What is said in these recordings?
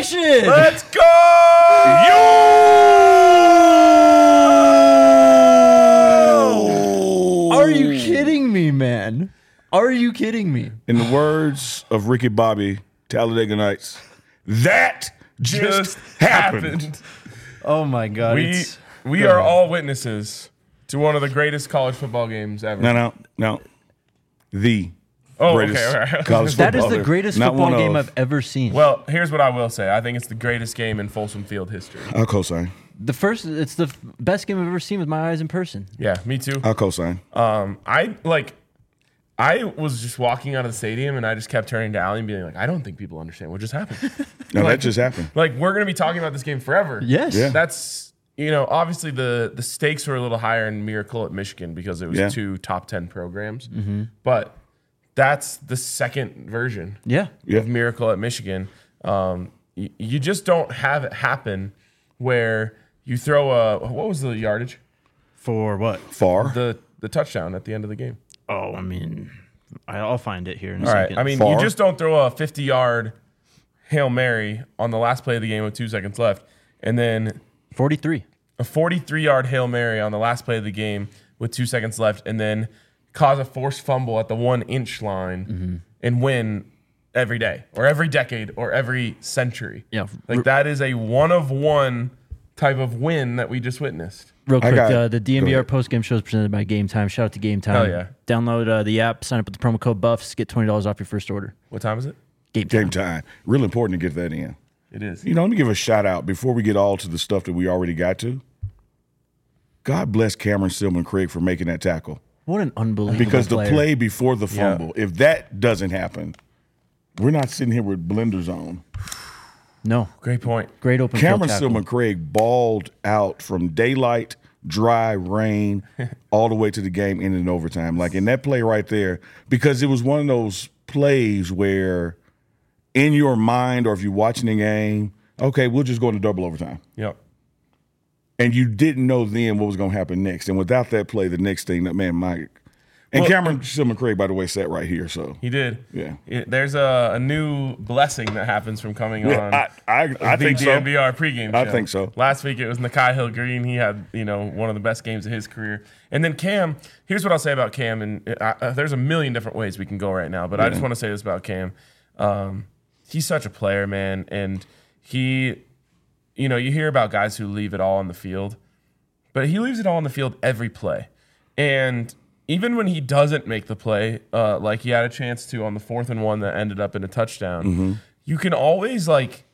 Nation! Let's go! Are you kidding me, man? Are you kidding me? In the words of Ricky Bobby, Talladega Nights, that just happened. Oh my God! We are all witnesses to one of the greatest college football games ever. No. The Oh, greatest okay, all right. college That is football the ever. greatest Not football one game of. I've ever seen. Well, here's what I will say. I think it's the greatest game in Folsom Field history. I'll cosign. It's the best game I've ever seen with my eyes in person. Yeah, me too. I'll cosign. I was just walking out of the stadium and I just kept turning to Allie and being like, I don't think people understand what just happened. No, that just happened. Like, we're going to be talking about this game forever. Yes. Yeah. That's, obviously the stakes were a little higher in Miracle at Michigan because it was two top 10 programs. Mm-hmm. But that's the second version Yeah. of Miracle at Michigan. You just don't have it happen where you throw what was the yardage? For what? Far. The touchdown at the end of the game. Oh, I mean, I'll find it here in a All right. second. I mean, Far. you just don't throw a 50-yard Hail Mary on the last play of the game with 2 seconds left, and then 43. a 43-yard Hail Mary on the last play of the game with 2 seconds left, and then cause a forced fumble at the 1-inch line and win every day or every decade or every century. Yeah. Like, that is a one-of-one type of win that we just witnessed. Real quick, got- the go DMVR ahead. post-game show is presented by Game Time. Shout out to Game Time. Hell yeah. Download the app, sign up with the promo code BUFFS, get $20 off your first order. What time is it? Game Time. Game time. Real important to get that in. It is. Let me give a shout out before we get all to the stuff that we already got to. God bless Cameron Stillman Craig for making that tackle. What an unbelievable Because the player. play before the fumble, if that doesn't happen, we're not sitting here with blenders on. No. Great point. Great open Cameron field tackle. Stillman Craig balled out from daylight, dry, rain, all the way to the game ending in overtime. Like in that play right there, because it was one of those plays where in your mind or if you're watching the game, okay, we'll just go into double overtime. Yep. And you didn't know then what was going to happen next. And without that play, the next thing, man, Mike. And Well, Cameron Stillman Craig, by the way, sat right here. So He did. Yeah. There's a new blessing that happens from coming on. I the think so. DNVR pregame show. I think so. Last week it was Nakai Hill Green. He had one of the best games of his career. And then Cam. Here's what I'll say about Cam. And there's a million different ways we can go right now, but I just want to say this about Cam. He's such a player, man, and he, you hear about guys who leave it all on the field, but he leaves it all on the field every play, and even when he doesn't make the play, like he had a chance to on the 4th and 1 that ended up in a touchdown, you can always,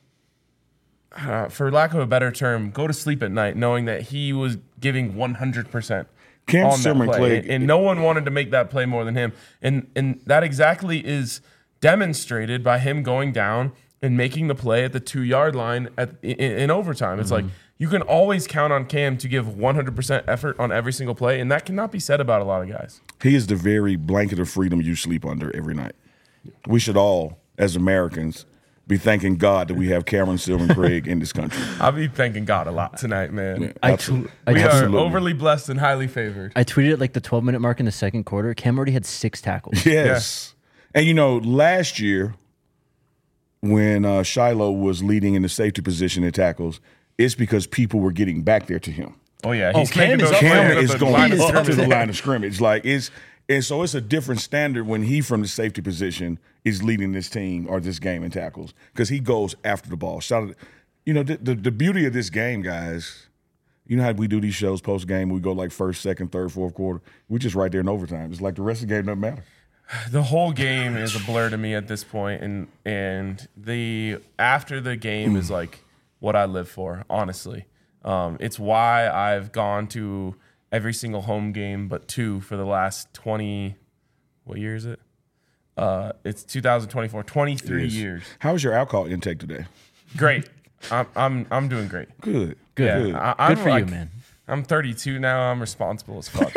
for lack of a better term, go to sleep at night knowing that he was giving 100% Cam on that Stillman play. Craig- And no one wanted to make that play more than him. And that exactly is demonstrated by him going down and making the play at the 2-yard line in overtime. It's like you can always count on Cam to give 100% effort on every single play, and that cannot be said about a lot of guys. He is the very blanket of freedom you sleep under every night. We should all, as Americans, be thanking God that we have Cameron Stillman Craig in this country. I'll be thanking God a lot tonight, man. Yeah, I absolutely. tw- We Absolutely. are overly blessed and highly favored. I tweeted at the 12-minute mark in the second quarter. Cam already had 6 tackles. Yes. And last year when Shiloh was leading in the safety position in tackles, it's because people were getting back there to him. Oh, yeah. He's making those Cameron plays is at the going line of up to scrimmage. the line of scrimmage. And so it's a different standard when he from the safety position is leading this team or this game in tackles because he goes after the ball. The beauty of this game, guys, you know how we do these shows post-game, we go first, second, third, fourth quarter. We're just right there in overtime. It's like the rest of the game doesn't matter. The whole game is a blur to me at this point, and the after the game is what I live for, honestly. It's why I've gone to every single home game but 2 for the last 20, what year is it? It's 2024, 23 years. How was your alcohol intake today? Great. I'm doing great. Good. Good. Yeah, Good for you, man. I'm 32 now. I'm responsible as fuck.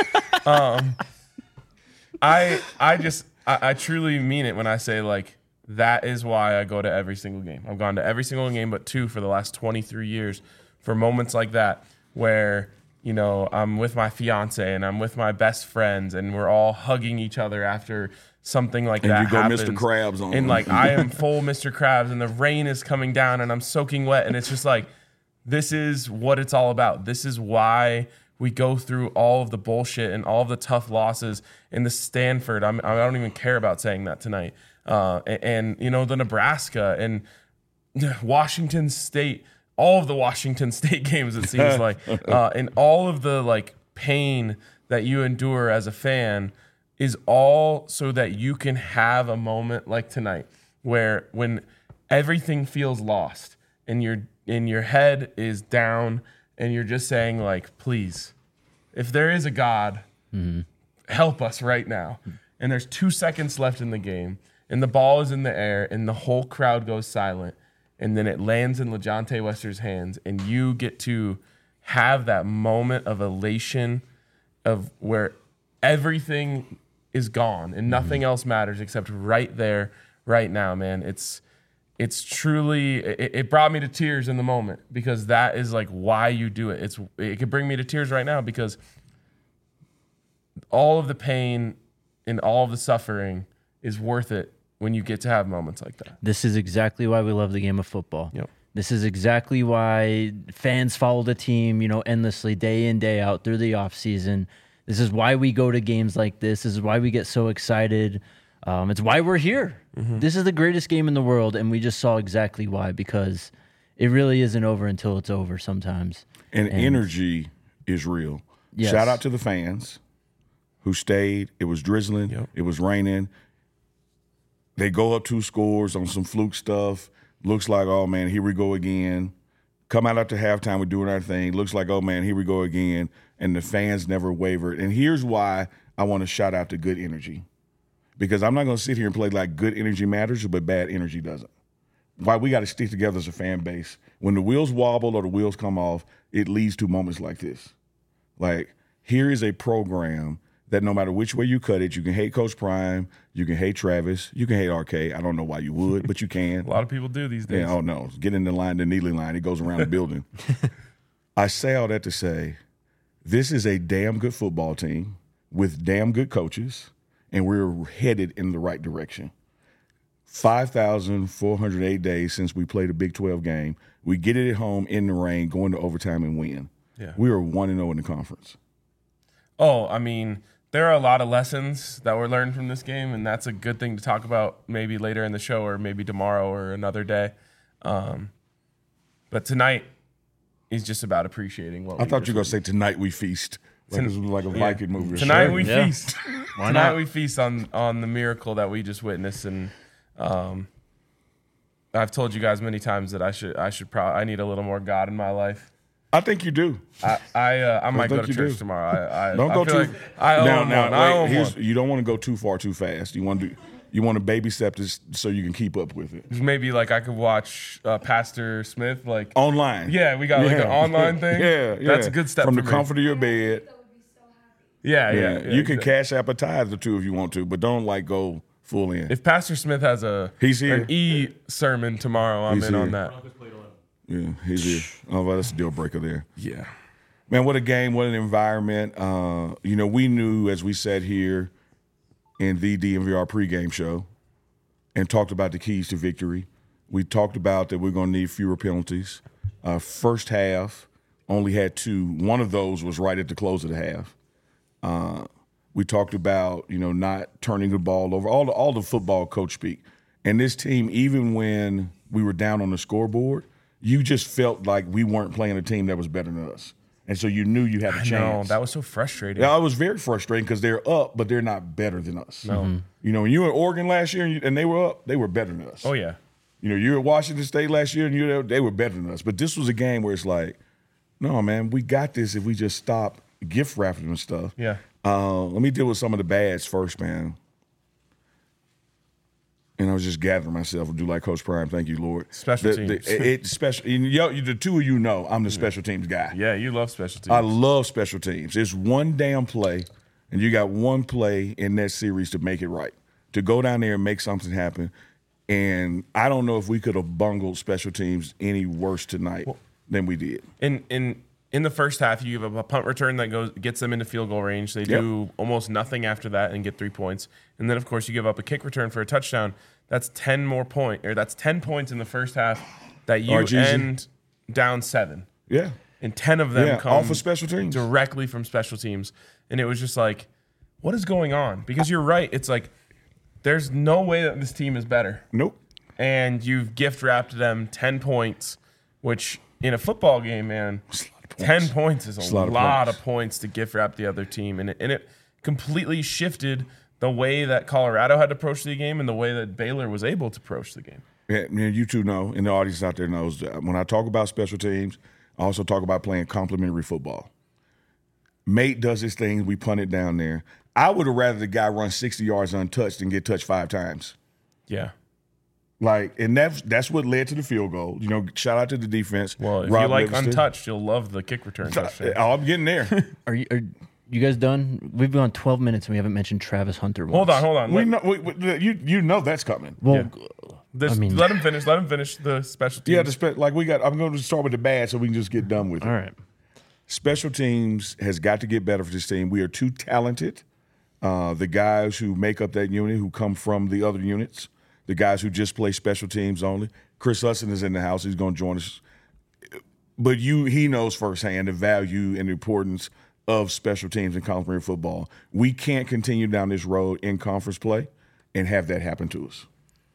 I truly mean it when I say that is why I go to every single game. I've gone to every single game but 2 for the last 23 years for moments like that where I'm with my fiance and I'm with my best friends and we're all hugging each other after something like And that you go happens. Mr. Krabs on And them. like I am full Mr. Krabs and the rain is coming down and I'm soaking wet and it's just like, this is what it's all about. This is why we go through all of the bullshit and all of the tough losses in the Stanford. I don't even care about saying that tonight. And you know, the Nebraska and Washington State, all of the Washington State games, it seems like, and all of the like pain that you endure as a fan is all so that you can have a moment like tonight where when everything feels lost and your head is down and you're just saying like, please, if there is a God, help us right now. And there's 2 seconds left in the game and the ball is in the air and the whole crowd goes silent. And then it lands in LeJontay Wester's hands and you get to have that moment of elation of where everything is gone and nothing else matters except right there, right now, man. It's truly, it brought me to tears in the moment because that is like why you do it. It could bring me to tears right now because all of the pain and all of the suffering is worth it when you get to have moments like that. This is exactly why we love the game of football. Yep. This is exactly why fans follow the team, endlessly, day in, day out through the offseason. This is why we go to games like this. This is why we get so excited. It's why we're here. Mm-hmm. This is the greatest game in the world, and we just saw exactly why, because it really isn't over until it's over sometimes. And energy is real. Yes. Shout out to the fans who stayed. It was drizzling. Yep. It was raining. They go up 2 scores on some fluke stuff. Looks like, oh, man, here we go again. Come out after halftime, we're doing our thing. Looks like, oh, man, here we go again. And the fans never wavered. And here's why I want to shout out to good energy. Because I'm not going to sit here and play like good energy matters, but bad energy doesn't. Why we got to stick together as a fan base. When the wheels wobble or the wheels come off, it leads to moments like this. Like, here is a program that no matter which way you cut it, you can hate Coach Prime, you can hate Travis, you can hate RK. I don't know why you would, but you can. A lot of people do these days. Yeah, oh no. Get in the line, the Neely line. It goes around the building. I say all that to say this is a damn good football team with damn good coaches, and we're headed in the right direction. 5,408 days since we played a Big 12 game. We get it at home in the rain, going to overtime and win. Yeah. We are 1-0 in the conference. Oh, I mean, there are a lot of lessons that were learned from this game, and that's a good thing to talk about maybe later in the show or maybe tomorrow or another day. But tonight is just about appreciating what I thought you were going to say tonight we feast. Like this was like a Viking movie. Tonight Sure. we Yeah. feast. Why Tonight not? we feast on the miracle that we just witnessed, and I've told you guys many times that I need a little more God in my life. I think you do. I might go think to you church do. tomorrow. I Don't I go feel too. like I own one. I own one. You don't want to go too far too fast. You want to baby step this so you can keep up with it. Maybe like I could watch Pastor Smith like Online. Yeah, we got like an online thing. Yeah, That's a good step from for the me. comfort of your bed. Yeah. You can cash app a tithe or two if you want to, but don't like go full in. If Pastor Smith has He's here. an sermon tomorrow, I'm He's in on here. that. Yeah, he's here. Oh, well, that's a deal breaker there. Yeah. Man, what a game, what an environment. We knew as we sat here in the DMVR pregame show and talked about the keys to victory. We talked about that we're going to need fewer penalties. First half only had 2. One of those was right at the close of the half. We talked about, not turning the ball over, all the football coach speak. And this team, even when we were down on the scoreboard, you just felt like we weren't playing a team that was better than us. And so you knew you had a chance. No, that was so frustrating. Yeah, it was very frustrating because they're up, but they're not better than us. No. When you were in Oregon last year and they were up, they were better than us. Oh yeah. You were at Washington State last year and they were better than us. But this was a game where it's like, no, man, we got this if we just stop gift wrapping and stuff. Yeah. Let me deal with some of the bads first, man. And I was just gathering myself to do like Coach Prime. Thank you, Lord. Special teams. The two of you know I'm the special teams guy. Yeah, you love special teams. I love special teams. It's one damn play, and you got one play in that series to make it right, to go down there and make something happen. And I don't know if we could have bungled special teams any worse tonight than we did. And in the first half, you have a punt return that gets them into field goal range. They do almost nothing after that and get 3 points. And then, of course, you give up a kick return for a touchdown. That's 10 points in the first half that you end down 7. Yeah. And 10 of them come off of special teams. Directly from special teams. And it was just like, what is going on? Because you're right. It's like, there's no way that this team is better. Nope. And you've gift wrapped them 10 points, which in a football game, man, 10 points is a lot of points to gift wrap the other team. And it completely shifted the way that Colorado had to approach the game and the way that Baylor was able to approach the game. Yeah, man, you two know, and the audience out there knows, that when I talk about special teams, I also talk about playing complementary football. Mate does his thing. We punt it down there. I would have rather the guy run 60 yards untouched than get touched 5 times. Yeah. Like, and that's what led to the field goal. You know, shout out to the defense. Well, if you like untouched, you'll love the kick return touchdown. Oh, I'm getting there. Are you guys done? We've been on 12 minutes and we haven't mentioned Travis Hunter once. Hold on. You know that's coming. Well, let him finish. Let him finish the special teams. Yeah, I'm going to start with the bad so we can just get done with it. All right. Special teams has got to get better for this team. We are too talented. The guys who make up that unit, who come from the other units, the guys who just play special teams only. Chris Hudson is in the house. He's going to join us. But he knows firsthand the value and the importance of special teams in complementary football. We can't continue down this road in conference play and have that happen to us.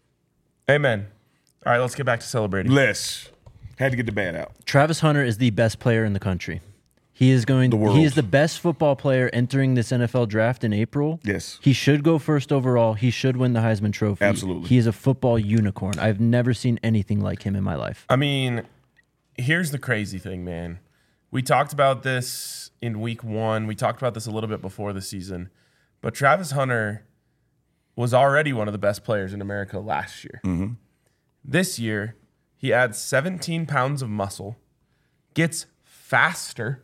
Amen. All right, let's get back to celebrating. Had to get the bad out. Travis Hunter is the best player in the country. He is the best football player entering this NFL draft in April. Yes. He should go first overall. He should win the Heisman Trophy. Absolutely. He is a football unicorn. I've never seen anything like him in my life. I mean, here's the crazy thing, man. We talked about this in week 1. We talked about this a little bit before the season. But Travis Hunter was already one of the best players in America last year. Mm-hmm. This year, he adds 17 pounds of muscle, gets faster,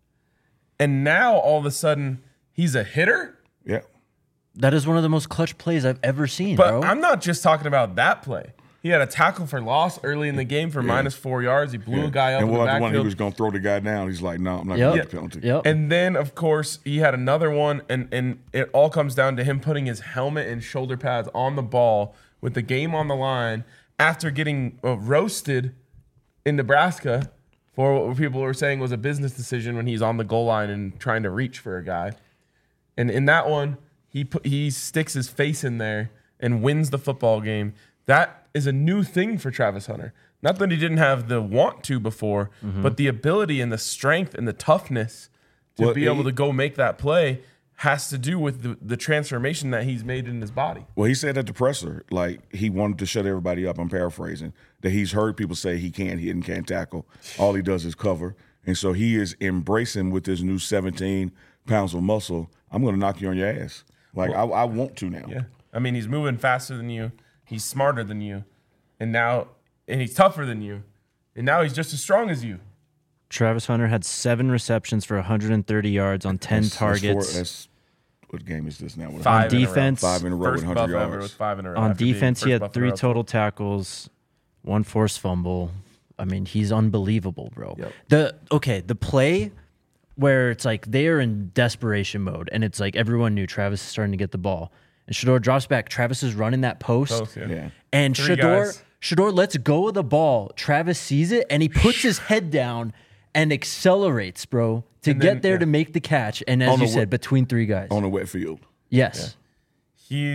and now all of a sudden he's a hitter? Yeah. That is one of the most clutch plays I've ever seen, But bro. I'm not just talking about that play. He had a tackle for loss early in the game for -4 yards. He blew a guy up in the one backfield. he was going to throw the guy down. He's like, no, I'm not going to get the penalty. Yep. And then, of course, he had another one, and it all comes down to him putting his helmet and shoulder pads on the ball with the game on the line after getting roasted in Nebraska for what people were saying was a business decision when he's on the goal line and trying to reach for a guy. And in that one, he sticks his face in there and wins the football game. That is a new thing for Travis Hunter. Not that he didn't have the want to before, but the ability and the strength and the toughness to be able to go make that play has to do with the transformation that he's made in his body. Well, he said at the presser, like he wanted to shut everybody up. I'm paraphrasing, that he's heard people say he can't hit and can't tackle. All he does is cover. And so he is embracing with this new 17 pounds of muscle. I'm going to knock you on your ass. Like, I want to now. Yeah. I mean, he's moving faster than you. He's smarter than you. And he's tougher than you. And now he's just as strong as you. Travis Hunter had 7 receptions for 130 yards on 10 targets. What game is this now? On defense, 5 in a row with 100 yards. With 5 in a row. On defense, he had 3 total tackles, 1 forced fumble. I mean, he's unbelievable, bro. Yep. The play where it's like they are in desperation mode, and it's like everyone knew Travis is starting to get the ball. And Shedeur drops back. Travis is running that post. Yeah. And Three guys. Shedeur lets go of the ball. Travis sees it, and he puts his head down and accelerates, bro, to get there to make the catch. And as you said, between 3 guys. On a wet field. Yes. Yeah.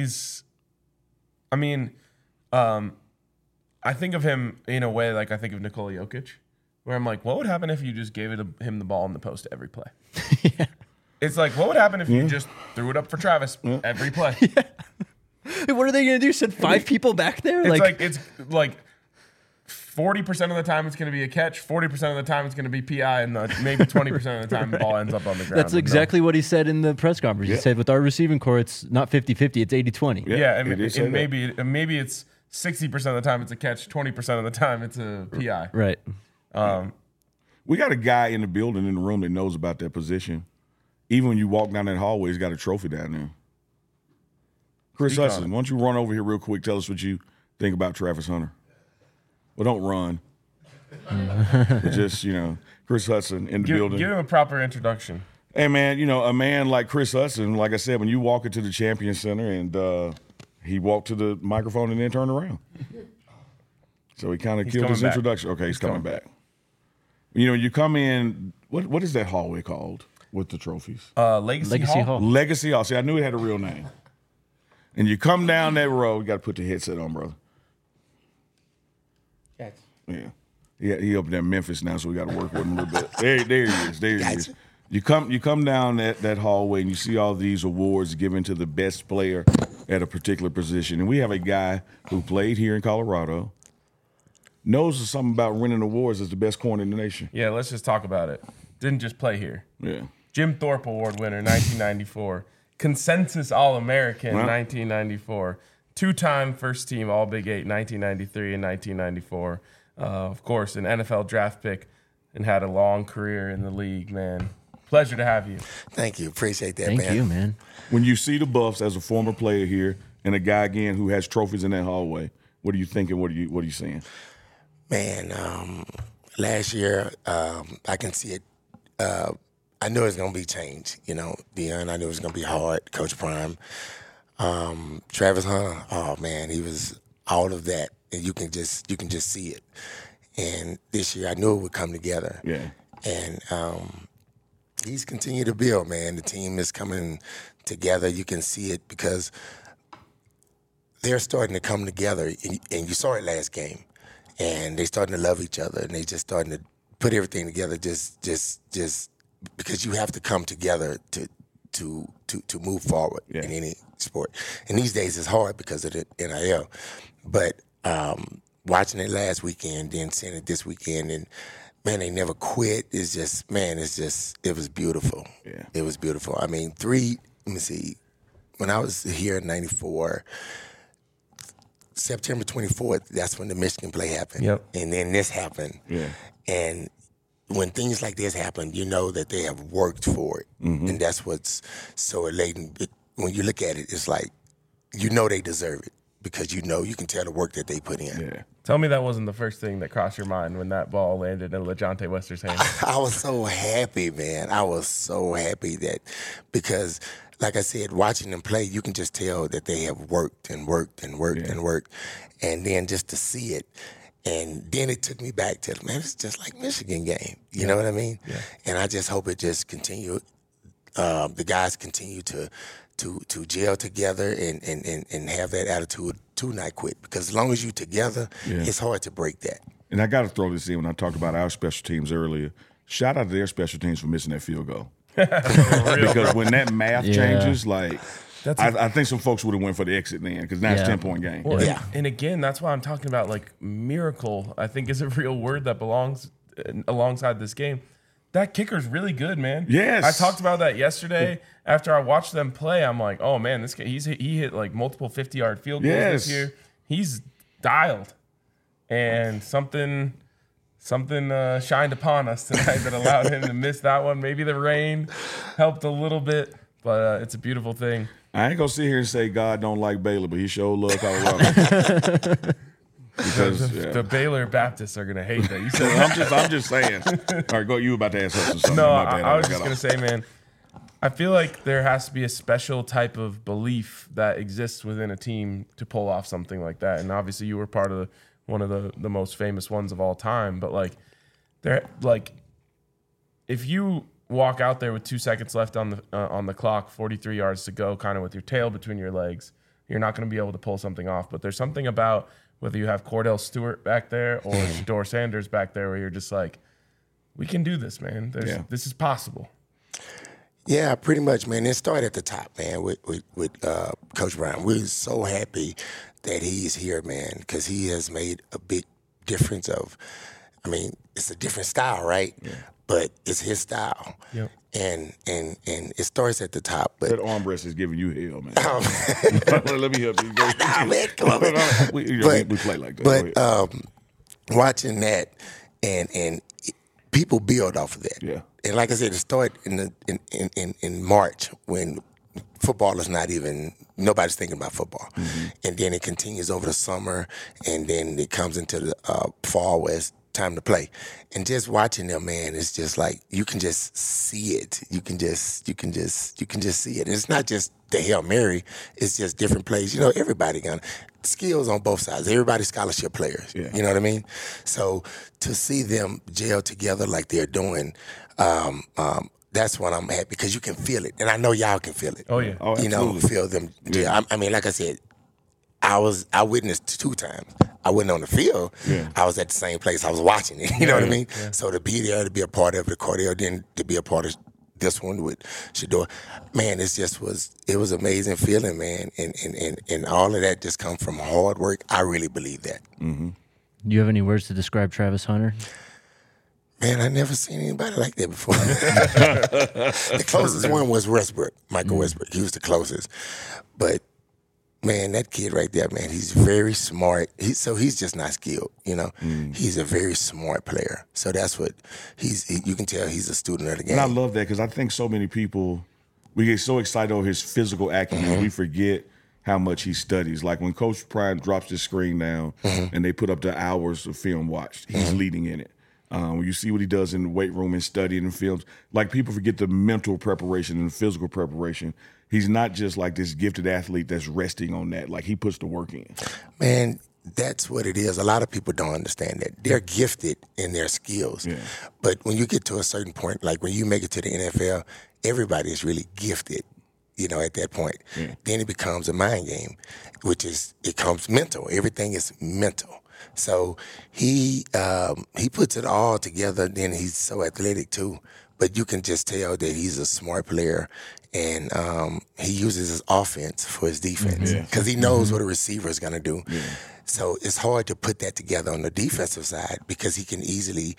I think of him in a way like I think of Nikola Jokic, where I'm like, what would happen if you just gave him the ball in the post every play? Yeah. It's like, what would happen if you just threw it up for Travis every play? What are they going to do? Send 5 people back there? It's like 40% of the time it's going to be a catch, 40% of the time it's going to be PI, and maybe 20% of the time the ball ends up on the ground. That's exactly what he said in the press conference. He said, with our receiving core, it's not 50-50, it's 80-20. Yeah, and maybe it's 60% of the time it's a catch, 20% of the time it's a PI. Right. We got a guy in the building, in the room, that knows about that position. Even when you walk down that hallway, he's got a trophy down there. Chris Hudson, why don't you run over here real quick? Tell us what you think about Travis Hunter. Well, don't run. Just, Chris Hudson in the building. Give him a proper introduction. Hey, man, a man like Chris Hudson, like I said, when you walk into the Champion Center and he walked to the microphone and then turned around. So he kind of killed his introduction. Okay, he's coming back. You come in, what is that hallway called with the trophies? Legacy Hall. Legacy Hall. See, I knew it had a real name. And you come down that road, you got to put the headset on, brother. Yes. Yeah. He up there in Memphis now, so we got to work with him a little bit. There he is. There he is. You come down that hallway and you see all these awards given to the best player at a particular position. And we have a guy who played here in Colorado, knows something about winning awards as the best corner in the nation. Yeah, let's just talk about it. Didn't just play here. Yeah. Jim Thorpe Award winner, 1994. Consensus All-American, 1994. Two-time first team All-Big 8, 1993 and 1994. Of course, an NFL draft pick and had a long career in the league, man. Pleasure to have you. Thank you. Appreciate that, man. Thank you, man. When you see the Buffs as a former player here and a guy, again, who has trophies in that hallway, what are you thinking? What are you seeing? Man, last year, I can see it. I knew it was going to be change, Deion, I knew it was going to be hard. Coach Prime. Travis Hunter, oh, man, he was all of that. And you can just see it. And this year, I knew it would come together. Yeah. And he's continued to build, man. The team is coming together. You can see it because they're starting to come together. And you saw it last game. And they're starting to love each other. And they just starting to put everything together just because you have to come together to move forward in any sport. And these days it's hard because of the NIL. But watching it last weekend, then seeing it this weekend, and man, they never quit. It was beautiful. Yeah. It was beautiful. I mean, when I was here in 94, September 24th, that's when the Michigan play happened. Yep. And then this happened. Yeah. And when things like this happen, you know that they have worked for it. Mm-hmm. And that's what's so elating. When you look at it, it's like, they deserve it because you can tell the work that they put in. Yeah. Tell me that wasn't the first thing that crossed your mind when that ball landed in LeJontay Wester's hand. I was so happy, man. I was so happy because, like I said, watching them play, you can just tell that they have worked and worked and worked and worked. And then just to see it, and then it took me back to, man, it's just like Michigan game. You know what I mean? Yeah. And I just hope it just continue. The guys continue to gel together and have that attitude to not quit. Because as long as you together, it's hard to break that. And I got to throw this in when I talked about our special teams earlier. Shout out to their special teams for missing that field goal. Because when that math changes, I think some folks would have went for the exit then because now it's 10-point game. Well, and again, that's why I'm talking about miracle, I think is a real word that belongs alongside this game. That kicker's really good, man. Yes. I talked about that yesterday after I watched them play. I'm like, oh man, this guy, he hit multiple 50-yard field goals this year. He's dialed. And something shined upon us tonight that allowed him to miss that one. Maybe the rain helped a little bit, but it's a beautiful thing. I ain't gonna sit here and say God don't like Baylor, but he sure love Colorado. Because the Baylor Baptists are gonna hate that. You said I'm just saying. All right, go. You about to ask us something? No, I was just gonna say, man. I feel like there has to be a special type of belief that exists within a team to pull off something like that. And obviously, you were part of one of the most famous ones of all time. But if you walk out there with 2 seconds left on the clock, 43 yards to go, kind of with your tail between your legs, you're not going to be able to pull something off. But there's something about whether you have Cordell Stewart back there or Shedeur Sanders back there where you're just like, we can do this, man. This is possible. Yeah, pretty much, man. It started at the top, man, with Coach Brown. We're so happy that he's here, man, because he has made a big difference it's a different style, right? Yeah. But it's his style. Yep. And it starts at the top. But that armrest is giving you hell, man. Let me help you. Nah, man, come on, man. We play like that. But watching that and people build off of that. Yeah. And like I said, it started in March when football is not even nobody's thinking about football, and then it continues over the summer, and then it comes into the fall where it's time to play. And just watching them, man, it's just like you can just see it. You can just see it. And it's not just the Hail Mary, it's just different plays. You know, everybody got skills on both sides. Everybody's scholarship players. Yeah. You know what I mean? So to see them gel together like they're doing, that's when I'm happy because you can feel it. And I know y'all can feel it. Oh, yeah. Oh, You know, absolutely. feel them gel. I mean, like I said, I witnessed 2 times. I wasn't on the field. Yeah. I was at the same place. I was watching it. You know what I mean? Yeah. So to be there, to be a part of the Cordell, then to be a part of this one with Shedeur, man, it was amazing feeling, man. And all of that just comes from hard work. I really believe that. Do you have any words to describe Travis Hunter? Man, I never seen anybody like that before. The closest one was Westbrook, Michael Westbrook. He was the closest. But man, that kid right there, man, he's very smart. He's just not skilled, you know. He's a very smart player. So that's what you can tell he's a student of the game. And I love that because I think so many people, we get so excited over his physical acumen, we forget how much he studies. Like when Coach Prime drops the screen down and they put up the hours of film watched, he's leading in it. When you see what he does in the weight room and studying in films, like people forget the mental preparation and the physical preparation. He's not just like this gifted athlete that's resting on that. Like he puts the work in. Man, that's what it is. A lot of people don't understand that. They're gifted in their skills. Yeah. But when you get to a certain point, like when you make it to the NFL, everybody is really gifted, you know, at that point. Yeah. Then it becomes a mind game, it comes mental. Everything is mental. So he puts it all together. Then he's so athletic too. But you can just tell that he's a smart player, and he uses his offense for his defense because he knows what a receiver is going to do. Yeah. So it's hard to put that together on the defensive side because he can easily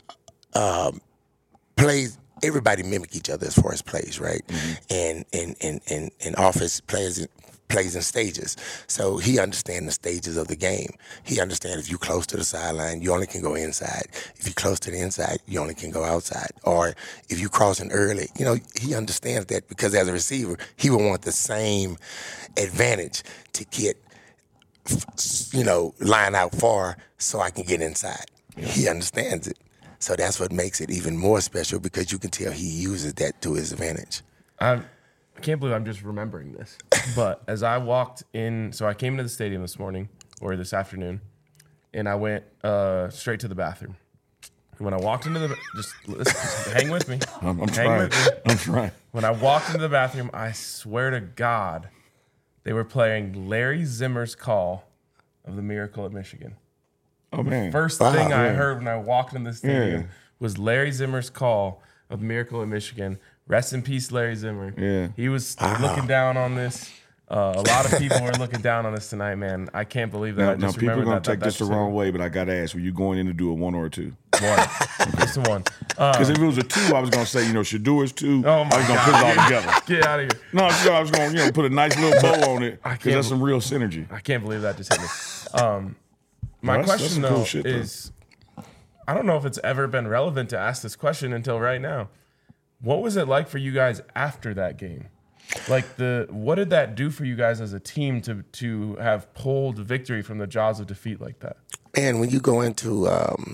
play. Everybody mimic each other as far as plays, right? And offense plays in stages. So he understands the stages of the game. He understands if you're close to the sideline, you only can go inside. If you're close to the inside, you only can go outside. Or if you're crossing early, you know, he understands that because as a receiver, he will want the same advantage to get, you know, line out far so I can get inside. Yeah. He understands it. So that's what makes it even more special because you can tell he uses that to his advantage. I can't believe I'm just remembering this. But as I walked in, so I came into the stadium this morning or this afternoon, and I went straight to the bathroom. And when I walked into the, just hang with me. I'm trying. When I walked into the bathroom, I swear to God, they were playing Larry Zimmer's call of the Miracle at Michigan. Oh man! First thing I heard when I walked in the stadium was Larry Zimmer's call of Miracle at Michigan. Rest in peace, Larry Zimmer. Yeah. He was looking down on this. A lot of people were looking down on this tonight, man. I can't believe that. Now people are going to take this the wrong way, but I got to ask, were you going in to do a 1 or a 2? 1. Just a 1. Because if it was a 2, I was going to say, you know, Shedeur is 2. Oh my I was going to put it all together. Get out of here. No, I was going to, you know, put a nice little bow on it because that's some real synergy. I can't believe that just hit me. My question, though, is I don't know if it's ever been relevant to ask this question until right now. What was it like for you guys after that game? Like what did that do for you guys as a team to have pulled victory from the jaws of defeat like that? And when you go into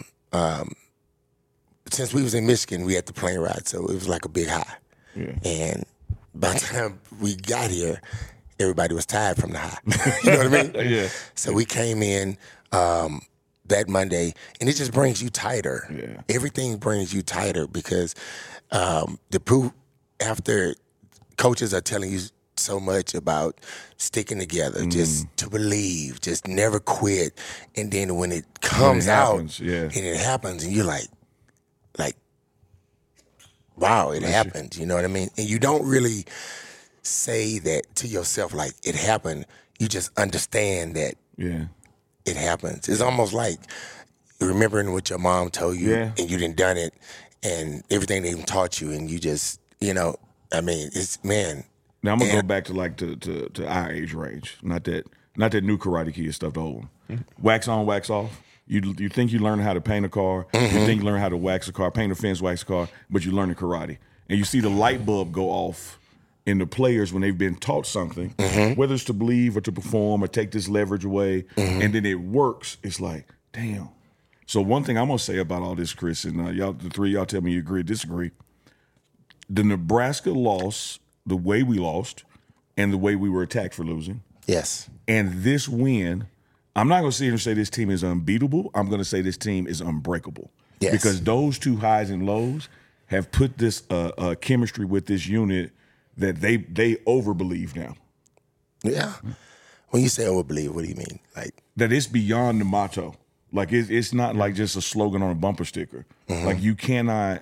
since we was in Michigan, we had the plane ride, so it was like a big high. Yeah. And by the time we got here, everybody was tired from the high. You know what I mean? Yeah. So we came in that Monday, and it just brings you tighter. Yeah. Everything brings you tighter because the proof after coaches are telling you so much about sticking together, just to believe, just never quit, and then when it comes out and it happens, and you're like, wow, it happened. You know what I mean? And you don't really say that to yourself like it happened. You just understand that it happens. It's almost like remembering what your mom told you and you done done it and everything they even taught you and you just, you know, I mean, it's, man. Now I'm going to go back to like to our age range. Not that new Karate Kid stuff, the old one. Mm-hmm. Wax on, wax off. You think you learn how to paint a car. Mm-hmm. You think you learn how to wax a car, paint a fence, wax a car, but you learn the karate. And you see the light bulb go off in the players when they've been taught something, whether it's to believe or to perform or take this leverage away, and then it works. It's like, damn. So one thing I'm gonna say about all this, Chris, and y'all, the three of y'all, tell me you agree or disagree. The Nebraska loss, the way we lost, and the way we were attacked for losing, Yes. and this win, I'm not gonna sit here and say this team is unbeatable. I'm gonna say this team is unbreakable. Yes. Because those two highs and lows have put this chemistry with this unit that they overbelieve now. Yeah. When you say overbelieve, what do you mean? Like, That it's beyond the motto. Like it's not like just a slogan on a bumper sticker. Like you can't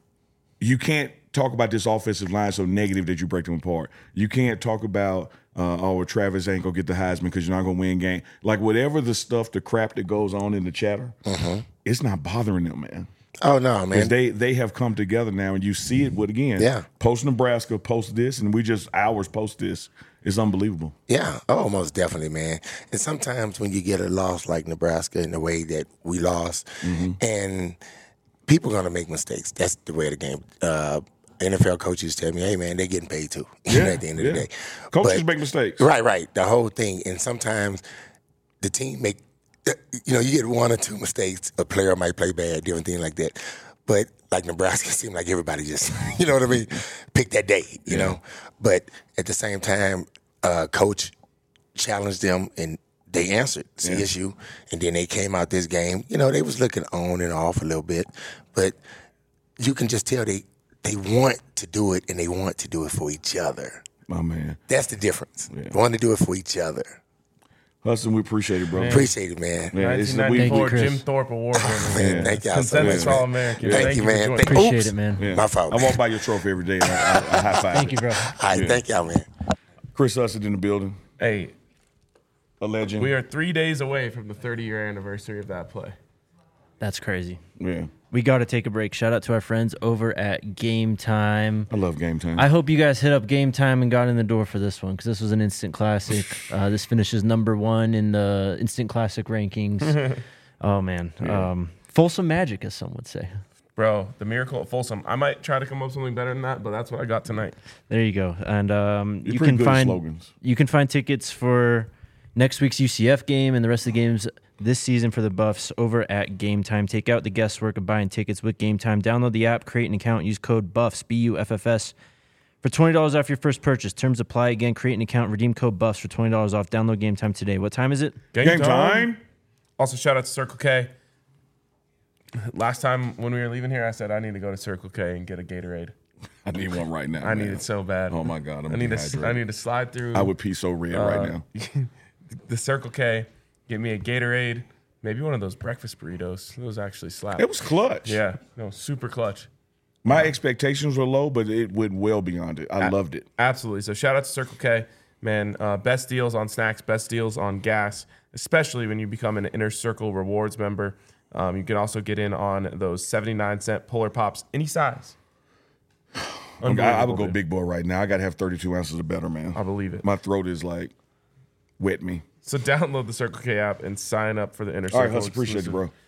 talk about this offensive line so negative that you break them apart. You can't talk about Travis ain't gonna get the Heisman because you're not gonna win game. Like whatever the stuff, the crap that goes on in the chatter, it's not bothering them, man. oh no, man. Because they have come together now, and you see it with Yeah. post Nebraska, post this, and we just hours post this. It's unbelievable. Yeah, oh, most definitely, man. And sometimes when you get a loss like Nebraska in the way that we lost, and people are going to make mistakes. That's the way of the game. NFL coaches tell me, hey, man, they're getting paid too at the end of the day. Coaches But- make mistakes. Right. The whole thing. And sometimes the team you get one or two mistakes. A player might play bad, different thing like that. But like Nebraska, it seemed like everybody just, you know what I mean, pick that day, you know. But at the same time, coach challenged them and they answered CSU. And then they came out this game. You know, they was looking on and off a little bit. But you can just tell they want to do it and they want to do it for each other. My man. That's the difference. They want to do it for each other. Hudson, we appreciate it, bro. Appreciate it, man. Yeah, it's- 1994 Chris. Jim Thorpe Award winner. Man, thank y'all so Consensus much, man. All-American. Thank you, man. for joining. Appreciate Oops. it, man. yeah. My fault, I man. walk by your trophy every day. And I high five. Thank you, bro. All right, thank y'all, man. Chris Hudson in the building. Hey, A legend. we are 3 days away from the 30-year anniversary of that play. That's crazy. Yeah. We got to take a break. Shout out to our friends over at Game Time. I love game time. I hope you guys hit up Game Time and got in the door for this one because this was an instant classic. This finishes #1 in the instant classic rankings. Oh, man. Folsom magic, as some would say. Bro, the miracle at Folsom. I might try to come up with something better than that, but that's what I got tonight. There you go. And you pretty can good at find slogans. you can find tickets for next week's UCF game and the rest of the games this season for the Buffs over at Game Time. Take out the guesswork of buying tickets with Game Time. Download the app, create an account, use code BUFFS, BUFFS, for $20 off your first purchase. Terms apply. Again, create an account, redeem code BUFFS for $20 off. Download Game Time today. What time is it? Game time. Also, shout out to Circle K. Last time when we were leaving here, I said I need to go to Circle K and get a Gatorade. I need one right now. I need man. it so bad. Oh my God, I'm I need dehydrated. to slide through I would pee so red right now. the Circle K, get me a Gatorade, maybe one of those breakfast burritos. Those actually slap. It was clutch. Yeah, no, super clutch. My expectations were low, but it went well beyond it. I loved it. Absolutely. So shout out to Circle K, man. Best deals on snacks, best deals on gas, especially when you become an Inner Circle Rewards member. You can also get in on those 79-cent Polar Pops, any size. I would go Unbelievable, dude. big boy right now. I got to have 32 ounces or better, man. I believe it. My throat is like wet me. So download the Circle K app and sign up for the Inner Circle. All right, Hudson, appreciate you, bro.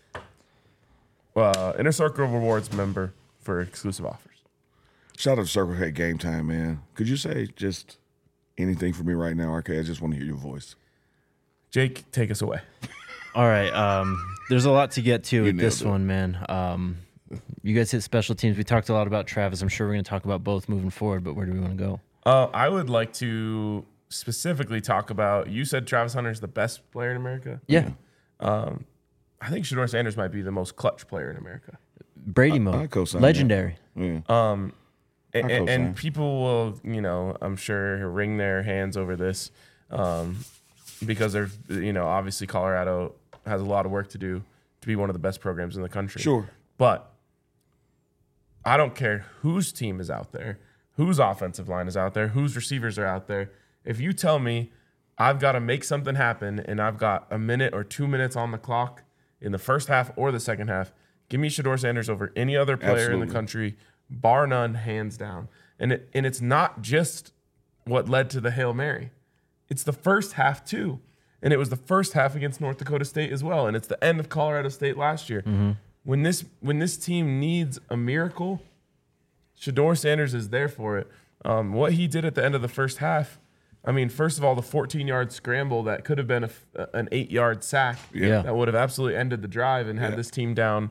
Inner Circle Rewards member for exclusive offers. Shout out to Circle K Game Time, man. Could you say just anything for me right now, RK? I just want to hear your voice. Jake, take us away. All right. There's a lot to get to with nailed this it. one, man. You guys hit special teams. We talked a lot about Travis. I'm sure we're going to talk about both moving forward, but where do we want to go? I would like to specifically talk about, you said Travis Hunter is the best player in America. Yeah. I think Shedeur Sanders might be the most clutch player in America. Brady I mode. co-sign Legendary. Yeah. And co-sign. people will, I'm sure, wring their hands over this because they're, obviously Colorado has a lot of work to do to be one of the best programs in the country. Sure. But I don't care whose team is out there, whose offensive line is out there, whose receivers are out there. If you tell me I've got to make something happen and I've got a minute or 2 minutes on the clock in the first half or the second half, give me Shedeur Sanders over any other player in Absolutely. the country, bar none, hands down. And it's not just what led to the Hail Mary. It's the first half too. And it was the first half against North Dakota State as well. And it's the end of Colorado State last year. When this team needs a miracle, Shedeur Sanders is there for it. What he did at the end of the first half, I mean, first of all, the 14-yard scramble that could have been an 8-yard sack Yeah. that would have absolutely ended the drive and had this team down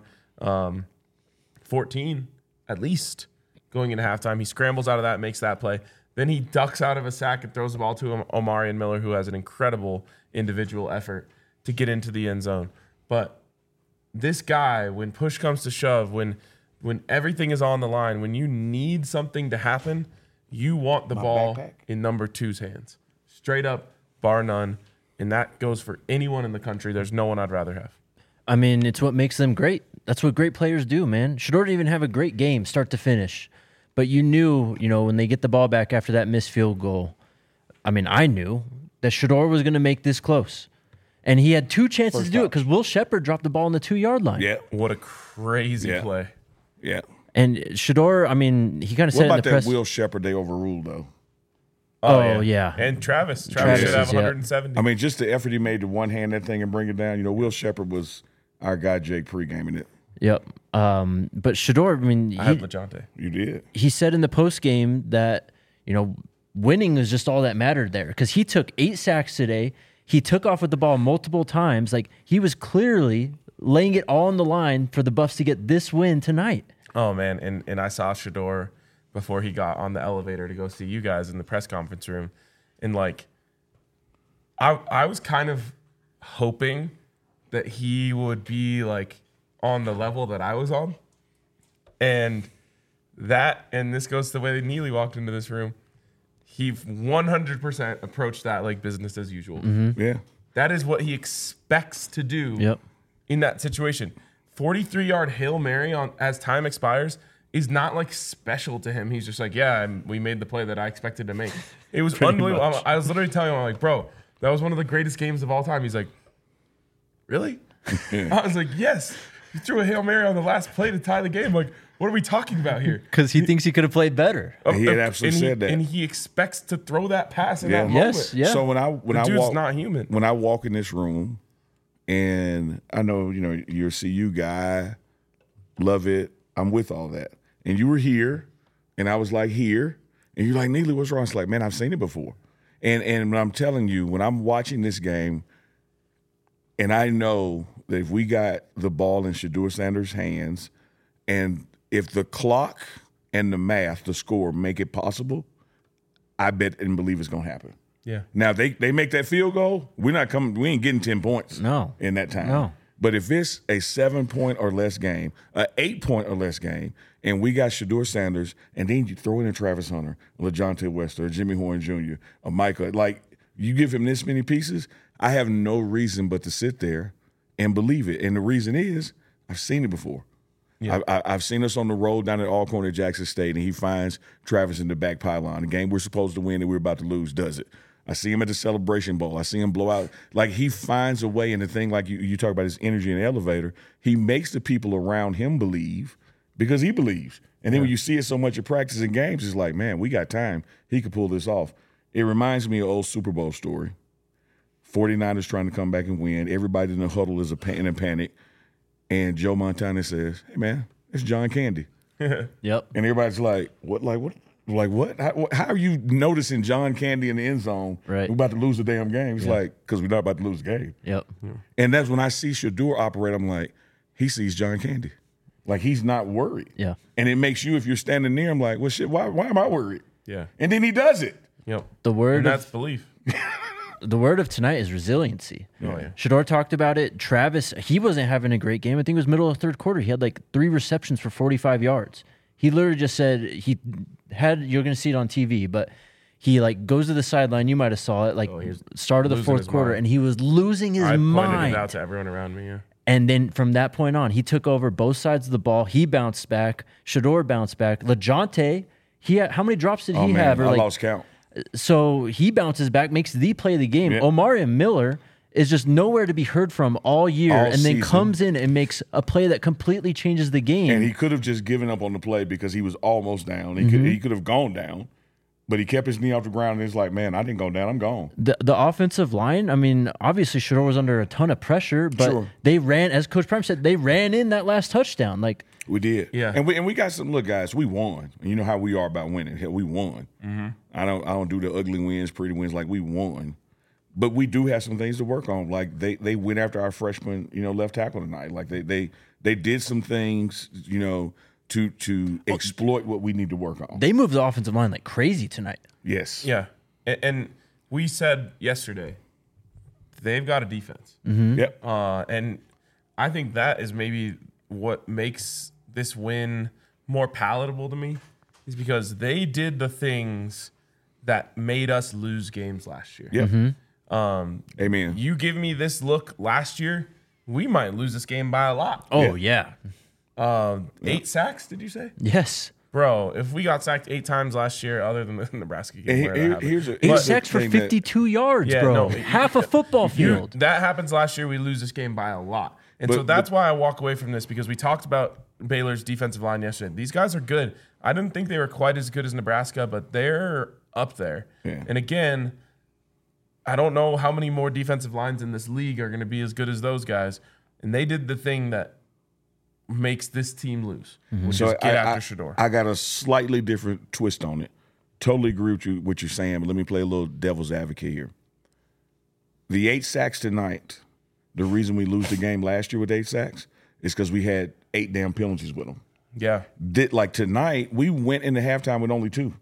14 at least going into halftime. He scrambles out of that, makes that play. Then he ducks out of a sack and throws the ball to Omarion Miller, who has an incredible individual effort to get into the end zone. But this guy, when push comes to shove, when everything is on the line, when you need something to happen, you want the ball in number 2's hands. Straight up, bar none. And that goes for anyone in the country. There's no one I'd rather have. I mean, it's what makes them great. That's what great players do, man. Shedeur didn't even have a great game start to finish. But you knew, when they get the ball back after that missed field goal, I mean, I knew that Shedeur was going to make this close. And he had 2 chances to do it because Will Shepherd dropped the ball on the 2-yard line. Yeah. What a crazy play. Yeah. And Shedeur, I mean, he kind of said What in about the that press. Will Shepherd they overruled, though? Oh, yeah. And Travis Travis should have is, yeah. 170. I mean, just the effort he made to one-hand that thing and bring it down. Will Shepherd was our guy, Jake, pre-gaming it. Yep. But Shedeur, I mean, I had LeJonte. You did. he said in the post game that, winning is just all that mattered there because he took 8 sacks today. He took off with the ball multiple times. Like, he was clearly laying it all on the line for the Buffs to get this win tonight. Oh, man. And I saw Shedeur before he got on the elevator to go see you guys in the press conference room. And, I was kind of hoping that he would be, on the level that I was on. And this goes to the way that Neely walked into this room. He 100% approached that like business as usual. Mm-hmm. Yeah. That is what he expects to do in that situation. 43-yard Hail Mary as time expires is not special to him. He's just we made the play that I expected to make. It was unbelievable. I was literally telling him, I'm like, bro, that was one of the greatest games of all time. He's like, really? I was like, yes. You threw a Hail Mary on the last play to tie the game. Like, what are we talking about here? Because he thinks he could have played better. He had absolutely said that. And he expects to throw that pass in that moment. Yes, yeah. So when I dude's walk, not human. When I walk in this room, and I know you're a CU guy, love it. I'm with all that, and you were here, and I was here, and you're like, Neely, what's wrong? It's like, man, I've seen it before, and when I'm telling you, when I'm watching this game, and I know that if we got the ball in Shedeur Sanders' hands, and if the clock and the math, the score, make it possible, I bet and believe it's going to happen. Yeah. Now, they make that field goal, we ain't getting 10 points in that time. No. But if it's a 7-point or less game, an 8-point or less game, and we got Shedeur Sanders, and then you throw in a Travis Hunter, LeJonte West, or Jimmy Horn Jr., or Micah, you give him this many pieces, I have no reason but to sit there and believe it. And the reason is I've seen it before. Yeah. I've seen us on the road down at Alcorn at Jackson State, and he finds Travis in the back pylon. The game we're supposed to win and we're about to lose does it. I see him at the Celebration Bowl. I see him blow out. He finds a way, and the thing you talk about his energy in the elevator, he makes the people around him believe because he believes. And then when you see it so much at practice and games, it's like, man, we got time. He could pull this off. It reminds me of old Super Bowl story. 49ers trying to come back and win. Everybody in the huddle is in a panic. And Joe Montana says, hey, man, it's John Candy. Yep. And everybody's like, what? What? How are you noticing John Candy in the end zone? Right. We're about to lose the damn game. He's because we're not about to lose the game. Yep. And that's when I see Shedeur operate, I'm like, he sees John Candy. He's not worried. Yeah. And it makes you, if you're standing near him, like, well, shit, why am I worried? Yeah. And then he does it. Yep. That's belief. The word of tonight is resiliency. Oh, yeah. Shedeur talked about it. Travis, he wasn't having a great game. I think it was middle of the third quarter. He had 3 receptions for 45 yards. He literally just said you're going to see it on TV, but he goes to the sideline. You might have saw it, start of the fourth quarter, and he was losing his mind. I pointed it out to everyone around me, yeah. And then from that point on, he took over both sides of the ball. He bounced back. Shedeur bounced back. LeJonte, how many drops did he have? I lost count. So he bounces back, makes the play of the game. Yeah. Omarion Miller is just nowhere to be heard from all year, and then season. comes in and makes a play that completely changes the game. And he could have just given up on the play because he was almost down. He could have gone down, but he kept his knee off the ground, and it's like, man, I didn't go down. I'm gone. The offensive line, I mean, obviously Shedeur was under a ton of pressure, but Sure. they ran, as Coach Prime said, they ran in that last touchdown. Like, We did. Yeah. And we got some, look, guys, we won. And you know how we are about winning. Hell, we won. Mm-hmm. I don't do the ugly wins, pretty wins. Like, we won. But we do have some things to work on. Like, they went after our freshman, left tackle tonight. Like, they did some things, to exploit what we need to work on. they moved the offensive line like crazy tonight. Yes. Yeah. And we said yesterday, they've got a defense. Yep. And I think that is maybe what makes this win more palatable to me, is because they did the things that made us lose games last year. Yep. Amen. You give me this look last year, we might lose this game by a lot. Oh, yeah. 8 sacks, did you say? Yes. Bro, if we got sacked 8 times last year, other than the Nebraska game, And where that happened. here's Eight the sacks for thing that- 52 yards, Yeah, bro. no, Half a football field. That happens last year. We lose this game by a lot. And so But- that's why I walk away from this, because we talked about Baylor's defensive line yesterday. These guys are good. I didn't think they were quite as good as Nebraska, but they're up there. Yeah. And again, I don't know how many more defensive lines in this league are going to be as good as those guys. And they did the thing that makes this team lose, which is get after Shedeur. I got a slightly different twist on it. Totally agree with you what you're saying, but let me play a little devil's advocate here. The 8 sacks tonight, the reason we lose the game last year with 8 sacks is because we had 8 damn penalties with them. Yeah. Like tonight, we went into halftime with only 2.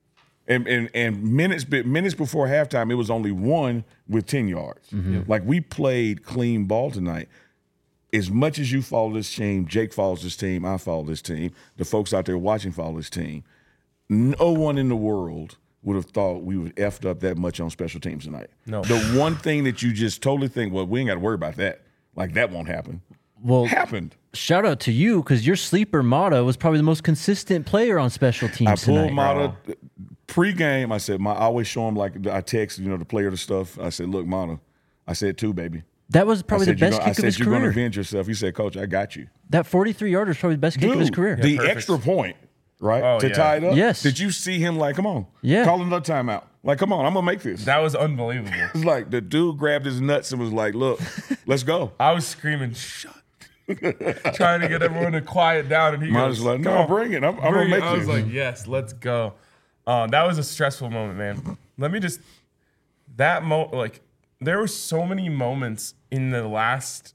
And minutes before halftime, it was only 1 with 10 yards. Like, we played clean ball tonight. As much as you follow this team, Jake follows this team, I follow this team, the folks out there watching follow this team, no one in the world would have thought we would effed up that much on special teams tonight. No. The one thing that you just totally think, well, we ain't got to worry about that. Like, that won't happen. Well, Happened. shout out to you, because your sleeper Mata was probably the most consistent player on special teams I pulled tonight. Mata pre-game. I said, I always show him, like, I text, the player the stuff. I said, look, Mata, I said 2, baby. That was probably the best I kick of said, his you're going to career. avenge yourself. He said, Coach, I got you. That 43-yarder is probably the best kick of his career. The perfect. extra point, right, Oh, to yeah. tie it up. Yes. Did you see him like, come on, Yeah. call another timeout. Like, come on, I'm going to make this. That was unbelievable. It's like the dude grabbed his nuts and was like, look, let's go. I was screaming, shut. Trying to get everyone to quiet down. And he Mine goes, was like, "Come no, on, bring it. I'm going to bring it." make I was this. like, yes, let's go. That was a stressful moment, man. Let me just, like, there were so many moments in the last,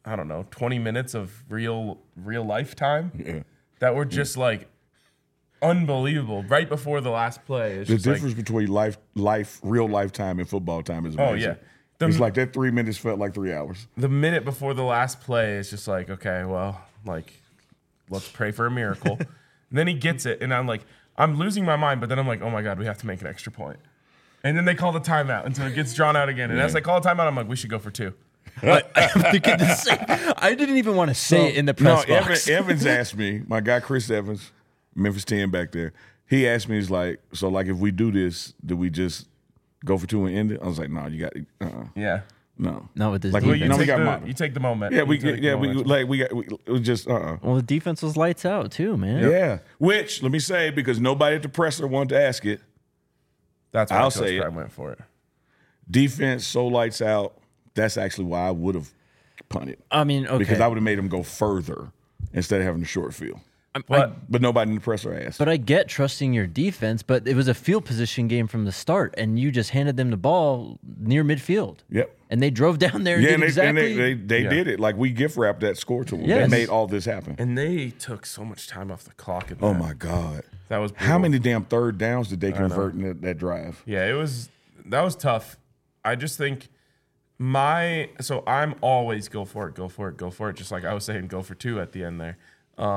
20 minutes of real life time that were just like unbelievable. Right before the last play, it's the just difference between real life time and football time is Oh, amazing. yeah. It's like that 3 minutes felt like 3 hours. the minute before the last play is just like, okay, well, like, let's pray for a miracle. And then he gets it, and I'm losing my mind, but then I'm like, oh my God, we have to make an extra point. And then they call the timeout until it gets drawn out again. And as they call a timeout, I'm like, we should go for 2. I'm thinking the same. I didn't even want to say it in the press box. Evans asked me, my guy Chris Evans, Memphis 10 back there, he asked me, he's like, so like if we do this, do we just go for 2 and end it? I was like, no, you got Yeah. no. Not with this Like, defense. we- No, got the, Mata. you take the moment. Yeah, You take the momentum. we just Well, the defense was lights out too, man. Yeah. Which, let me say, because nobody at the presser wanted to ask it, That's why I'll Coach say it. Prime went for it. defense so lights out, that's actually why I would have punted. I mean, okay. Because I would have made him go further instead of having a short field. But nobody in the presser asked. But I get trusting your defense, but it was a field position game from the start, and you just handed them the ball near midfield. Yep. And they drove down there and Yeah, did and they, exactly. they Yeah. did it. Like, we gift wrapped that score to them. Yes. They made all this happen. And they took so much time off the clock. In Oh, that. my God. That was How brutal. many damn third downs did they convert in that drive? Yeah, that was tough. I just think so I'm always go for it. Just like I was saying, go for 2 at the end there.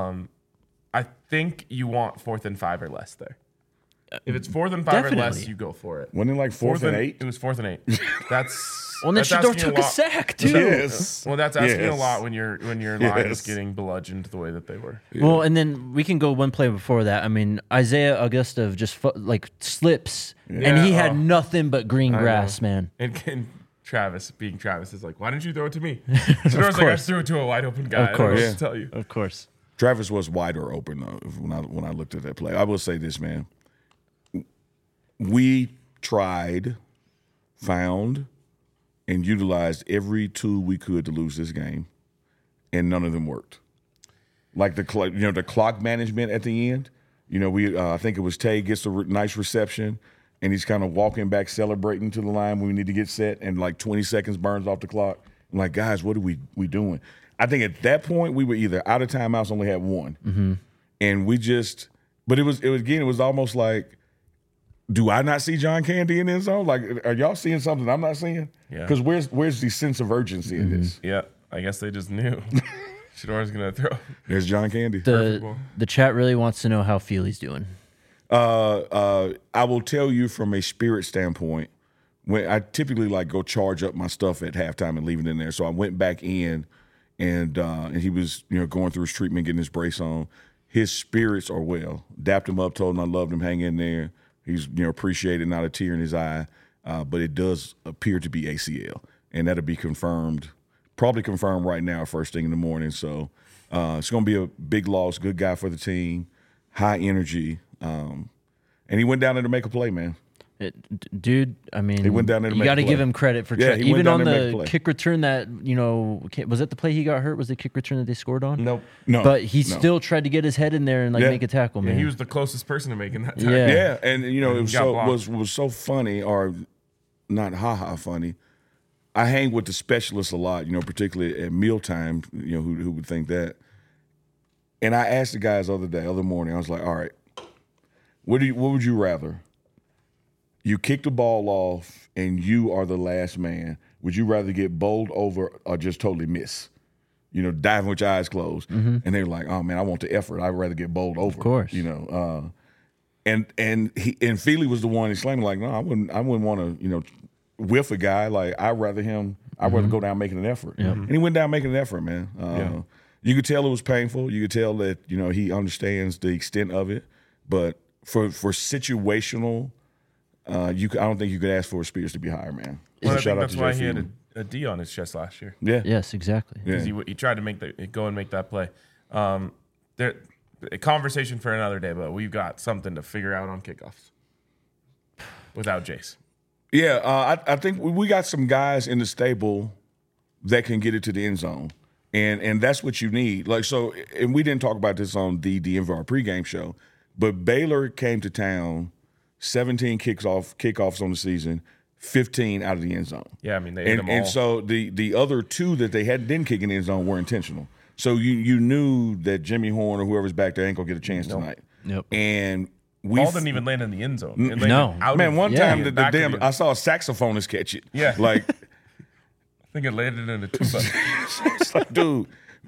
I think you want 4th and 5 or less there. If it's 4th and 5 or less, Definitely. you go for it. Wasn't it like 4th and 8? It was 4th and 8. That's Well, and then that's Shedeur asking took a lot. sack too. Yes. Well, that's asking a Yes. lot when your line Yes. is getting bludgeoned the way that they were. Well, and then we can go one play before that. I mean, Isaiah Augusta just slips, and he Yeah, had nothing but green I grass, know. man. And Travis, being Travis, is like, why didn't you throw it to me? Shedor's like, I course. threw it to a wide open guy. Of course. I don't know what to tell you. Of course. Travis was wider open, though, when I looked at that play. I will say this, man. we tried, found, and utilized every tool we could to lose this game, and none of them worked. Like the clock management at the end. I think it was Tay gets a nice reception, and he's kind of walking back, celebrating to the line when we need to get set, and like 20 seconds burns off the clock. I'm like, guys, what are we doing? I think at that point we were either out of timeouts, only had one, and we just. But it was almost like, do I not see John Candy in the end zone? Like, are y'all seeing something I'm not seeing? Yeah. Because where's the sense of urgency in this? Yeah, I guess they just knew. Shador's going to throw. There's John Candy. The chat really wants to know how Feely's doing. I will tell you from a spirit standpoint, when I typically like go charge up my stuff at halftime and leave it in there. So I went back in and he was, going through his treatment, getting his brace on. His spirits are well. Dapped him up, told him I loved him, hang in there. He's, appreciated, not a tear in his eye. But it does appear to be ACL. And that'll be confirmed, probably confirmed right now, first thing in the morning. So it's going to be a big loss, good guy for the team, high energy. And he went down there to make a play, man. Dude, I mean, he went down there to you got to give him credit for even on the kick return that, was that the play he got hurt? Was the kick return that they scored on? Nope. No. But he still tried to get his head in there and make a tackle, man. He was the closest person to making that tackle. Yeah, and it was so funny, or not funny. I hang with the specialists a lot, particularly at mealtime, who would think that. And I asked the guys the other morning, I was like, all right, what would you rather? You kick the ball off and you are the last man. Would you rather get bowled over or just totally miss? Diving with your eyes closed. And they're like, oh man, I want the effort. I'd rather get bowled over. Of course. And Feely was the one exclaiming like, no, I wouldn't want to, whiff a guy. Like I'd rather go down making an effort. Yep. And he went down making an effort, man. You could tell it was painful. You could tell that, he understands the extent of it. But for situational, I don't think you could ask for his spirits to be higher, man. Well, I think that's why he had a D on his chest last year. Yeah. Yes, exactly. Yeah. He tried to go and make that play. A conversation for another day, but we've got something to figure out on kickoffs without Jace. Yeah, I think we got some guys in the stable that can get it to the end zone, and that's what you need. Like so, and we didn't talk about this on the DNVR pregame show, but Baylor came to town. 17 kickoffs on the season, 15 out of the end zone. Yeah, I mean they hit them all. And so the other two that they didn't kick in the end zone were intentional. So you knew that Jimmy Horn or whoever's back there ain't gonna get a chance tonight. Yep. And ball didn't even land in the end zone. It No. landed one time the I saw a saxophonist catch it. Yeah. Like I think it landed in a tuba. it's like, dude,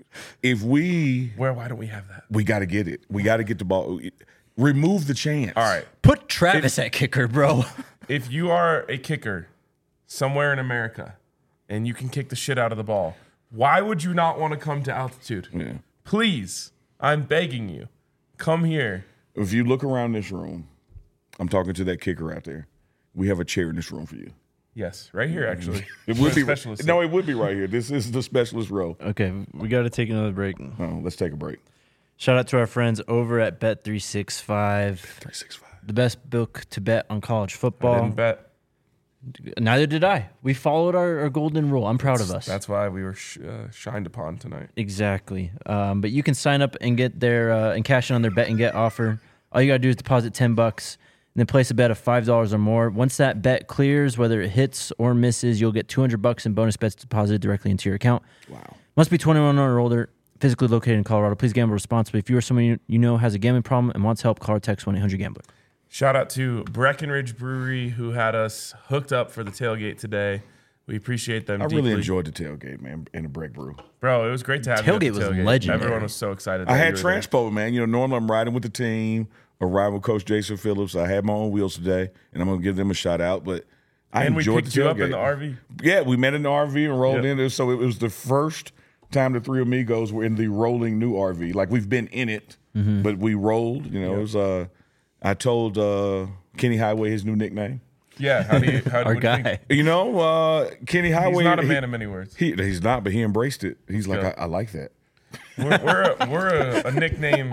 why don't we have that? we got to get it. We got to get the ball. Remove the chance. All right. Put Travis at kicker, bro. If you are a kicker somewhere in America and you can kick the shit out of the ball, why would you not want to come to altitude? Yeah. Please, I'm begging you, come here. If you look around this room, I'm talking to that kicker out there. We have a chair in this room for you. Yes, right here, actually. It would be specialist. No, it would be right here. This is the specialist row. Okay, we got to take another break. Oh, let's take a break. Shout out to our friends over at Bet365. 365. The best book to bet on college I football. didn't bet. Neither did I. We followed our golden rule. I'm proud of us. That's why we were shined upon tonight. Exactly. But you can sign up and get their and cash in on their bet and get offer. All you got to do is deposit $10 and then place a bet of $5 or more. Once that bet clears, whether it hits or misses, you'll get $200 in bonus bets deposited directly into your account. Wow. Must be 21 or older. Physically located in Colorado. Please gamble responsibly. If you or someone you know has a gambling problem and wants help, call or text 1-800-GAMBLER. Shout out to Breckenridge Brewery who had us hooked up for the tailgate today. We appreciate them deeply. Really enjoyed the tailgate, man, and the Breck Brew. Bro, it was great to have you at the Tailgate was tailgate. legendary. Everyone was so excited. I that had you were there. transpo, man. Normally I'm riding with the team or riding with Coach Jason Phillips. I had my own wheels today, and I'm going to give them a shout out. But I And we enjoyed picked the you tailgate. up in the RV. Yeah, we met in the RV and rolled Yep. in there. So it was the first time the three amigos were in the rolling new RV. Like we've been in it, but we rolled. It was. I told Kenny Highway his new nickname. Yeah, how do you Our what do you guy. think? Kenny Highway. He's not a man of many words. He's not, but he embraced it. He's like, Good. I like that. We're a nickname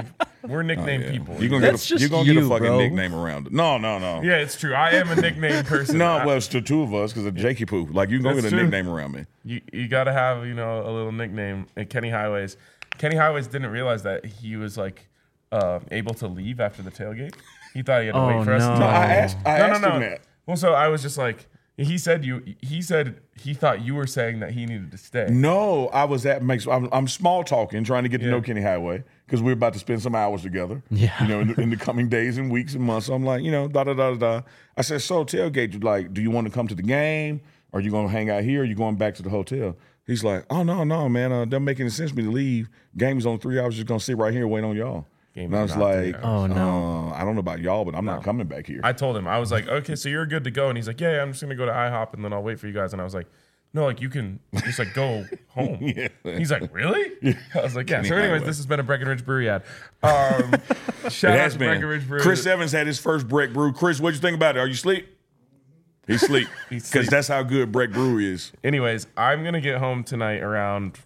We're nickname Yeah. people. You're gonna That's get a, just you're gonna get a you, fucking bro. nickname around it. No. Yeah, it's true. I am a nickname person. No, well, it's the two of us because of Jakey Poo. Like, you can go That's get a true. nickname around me. You got to have, a little nickname. And Kenny Highways. Kenny Highways didn't realize that he was like able to leave after the tailgate. He thought he had to wait for us. no. To No, I asked no. him that. Well, so I was just like, he said he thought you were saying that he needed to stay. No, I was at Makes. I'm small talking, trying to get to know Kenny Highway because we're about to spend some hours together. Yeah. In the coming days and weeks and months. So I'm like, da da da da. I said, so tailgate, like, do you want to come to the game? Or are you going to hang out here? Or are you going back to the hotel? He's like, oh no, man, doesn't make any sense for me to leave. Game is on 3 hours. Just gonna sit right here and wait on y'all. Game And I is was not 3 like, hours. Oh, no. I don't know about y'all, but I'm not coming back here. I told him, I was like, okay, so you're good to go. And he's like, yeah, I'm just going to go to IHOP and then I'll wait for you guys. And I was like, no, like you can just like go home. Yeah. He's like, really? I was like, yeah. Kenny So anyways, Highway. this has been a Breckenridge Brewery ad. Shout It out has to been. Breckenridge Brewery. Chris Evans had his first Breck Brew. Chris, what'd you think about it? Are you asleep? He's asleep. He's Because asleep. that's how good Breck Brew is. Anyways, I'm going to get home tonight around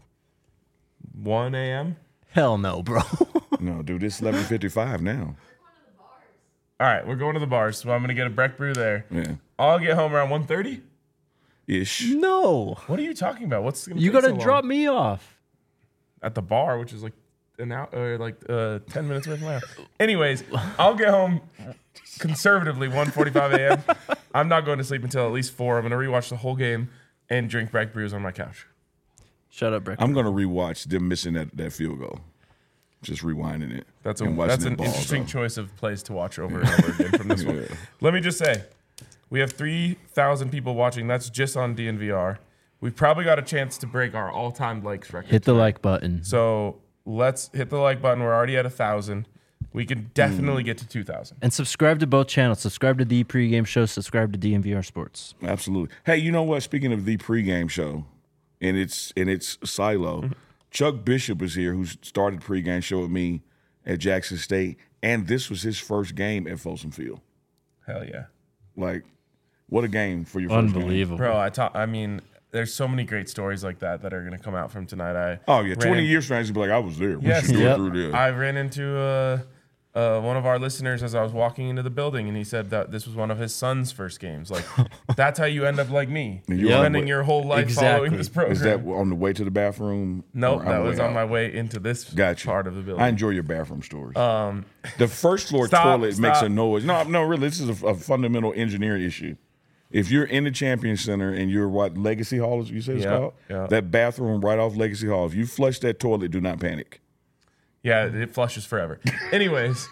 1 a.m. Hell no, bro. No, dude, it's 11:55 now. All right, we're going to the bars. So I'm going to get a Breck Brew there. Yeah. I'll get home around 1:30. Ish. No. What are you talking about? What's going to You got to drop me off. at the bar, which is like an hour, or like 10 minutes away from my house. Anyways, I'll get home conservatively 1:45 a.m. I'm not going to sleep until at least 4. I'm going to rewatch the whole game and drink Breck Brews on my couch. Shut up, Breck. I'm going to rewatch them missing that field goal. Just rewinding it. That's and watching an them balls, interesting though. choice of plays to watch over and over again from this one. Yeah. Let me just say, we have 3,000 people watching. That's just on DNVR. We've probably got a chance to break our all-time likes record. Hit the like button. So let's hit the like button. We're already at 1,000. We can definitely get to 2,000. And subscribe to both channels. Subscribe to the pregame show. Subscribe to DNVR Sports. Absolutely. Hey, you know what? Speaking of the pregame show, and its silo, Chuck Bishop is here, who started pregame show with me at Jackson State, and this was his first game at Folsom Field. Hell yeah. Like, what a game for your first game. Unbelievable. Bro, I mean, there's so many great stories like that are going to come out from tonight. Oh yeah, 20 years from now, he's gonna be like, I was there. We Yes. should go Yep. through this. I ran into one of our listeners as I was walking into the building, and he said that this was one of his son's first games. Like, that's how you end up like me. And You're you're spending on- your whole life Exactly. following this program. Is that on the way to the bathroom? Nope, or that the was way on out? my way into this Gotcha. part of the building. I enjoy your bathroom stories. The first floor Stop, toilet makes stop. a noise. No, really, this is a fundamental engineering issue. If you're in the Champion Center and you're what Legacy Hall is, you said it's Yeah, called? yeah. That bathroom right off Legacy Hall. If you flush that toilet, do not panic. Yeah, it flushes forever. Anyways,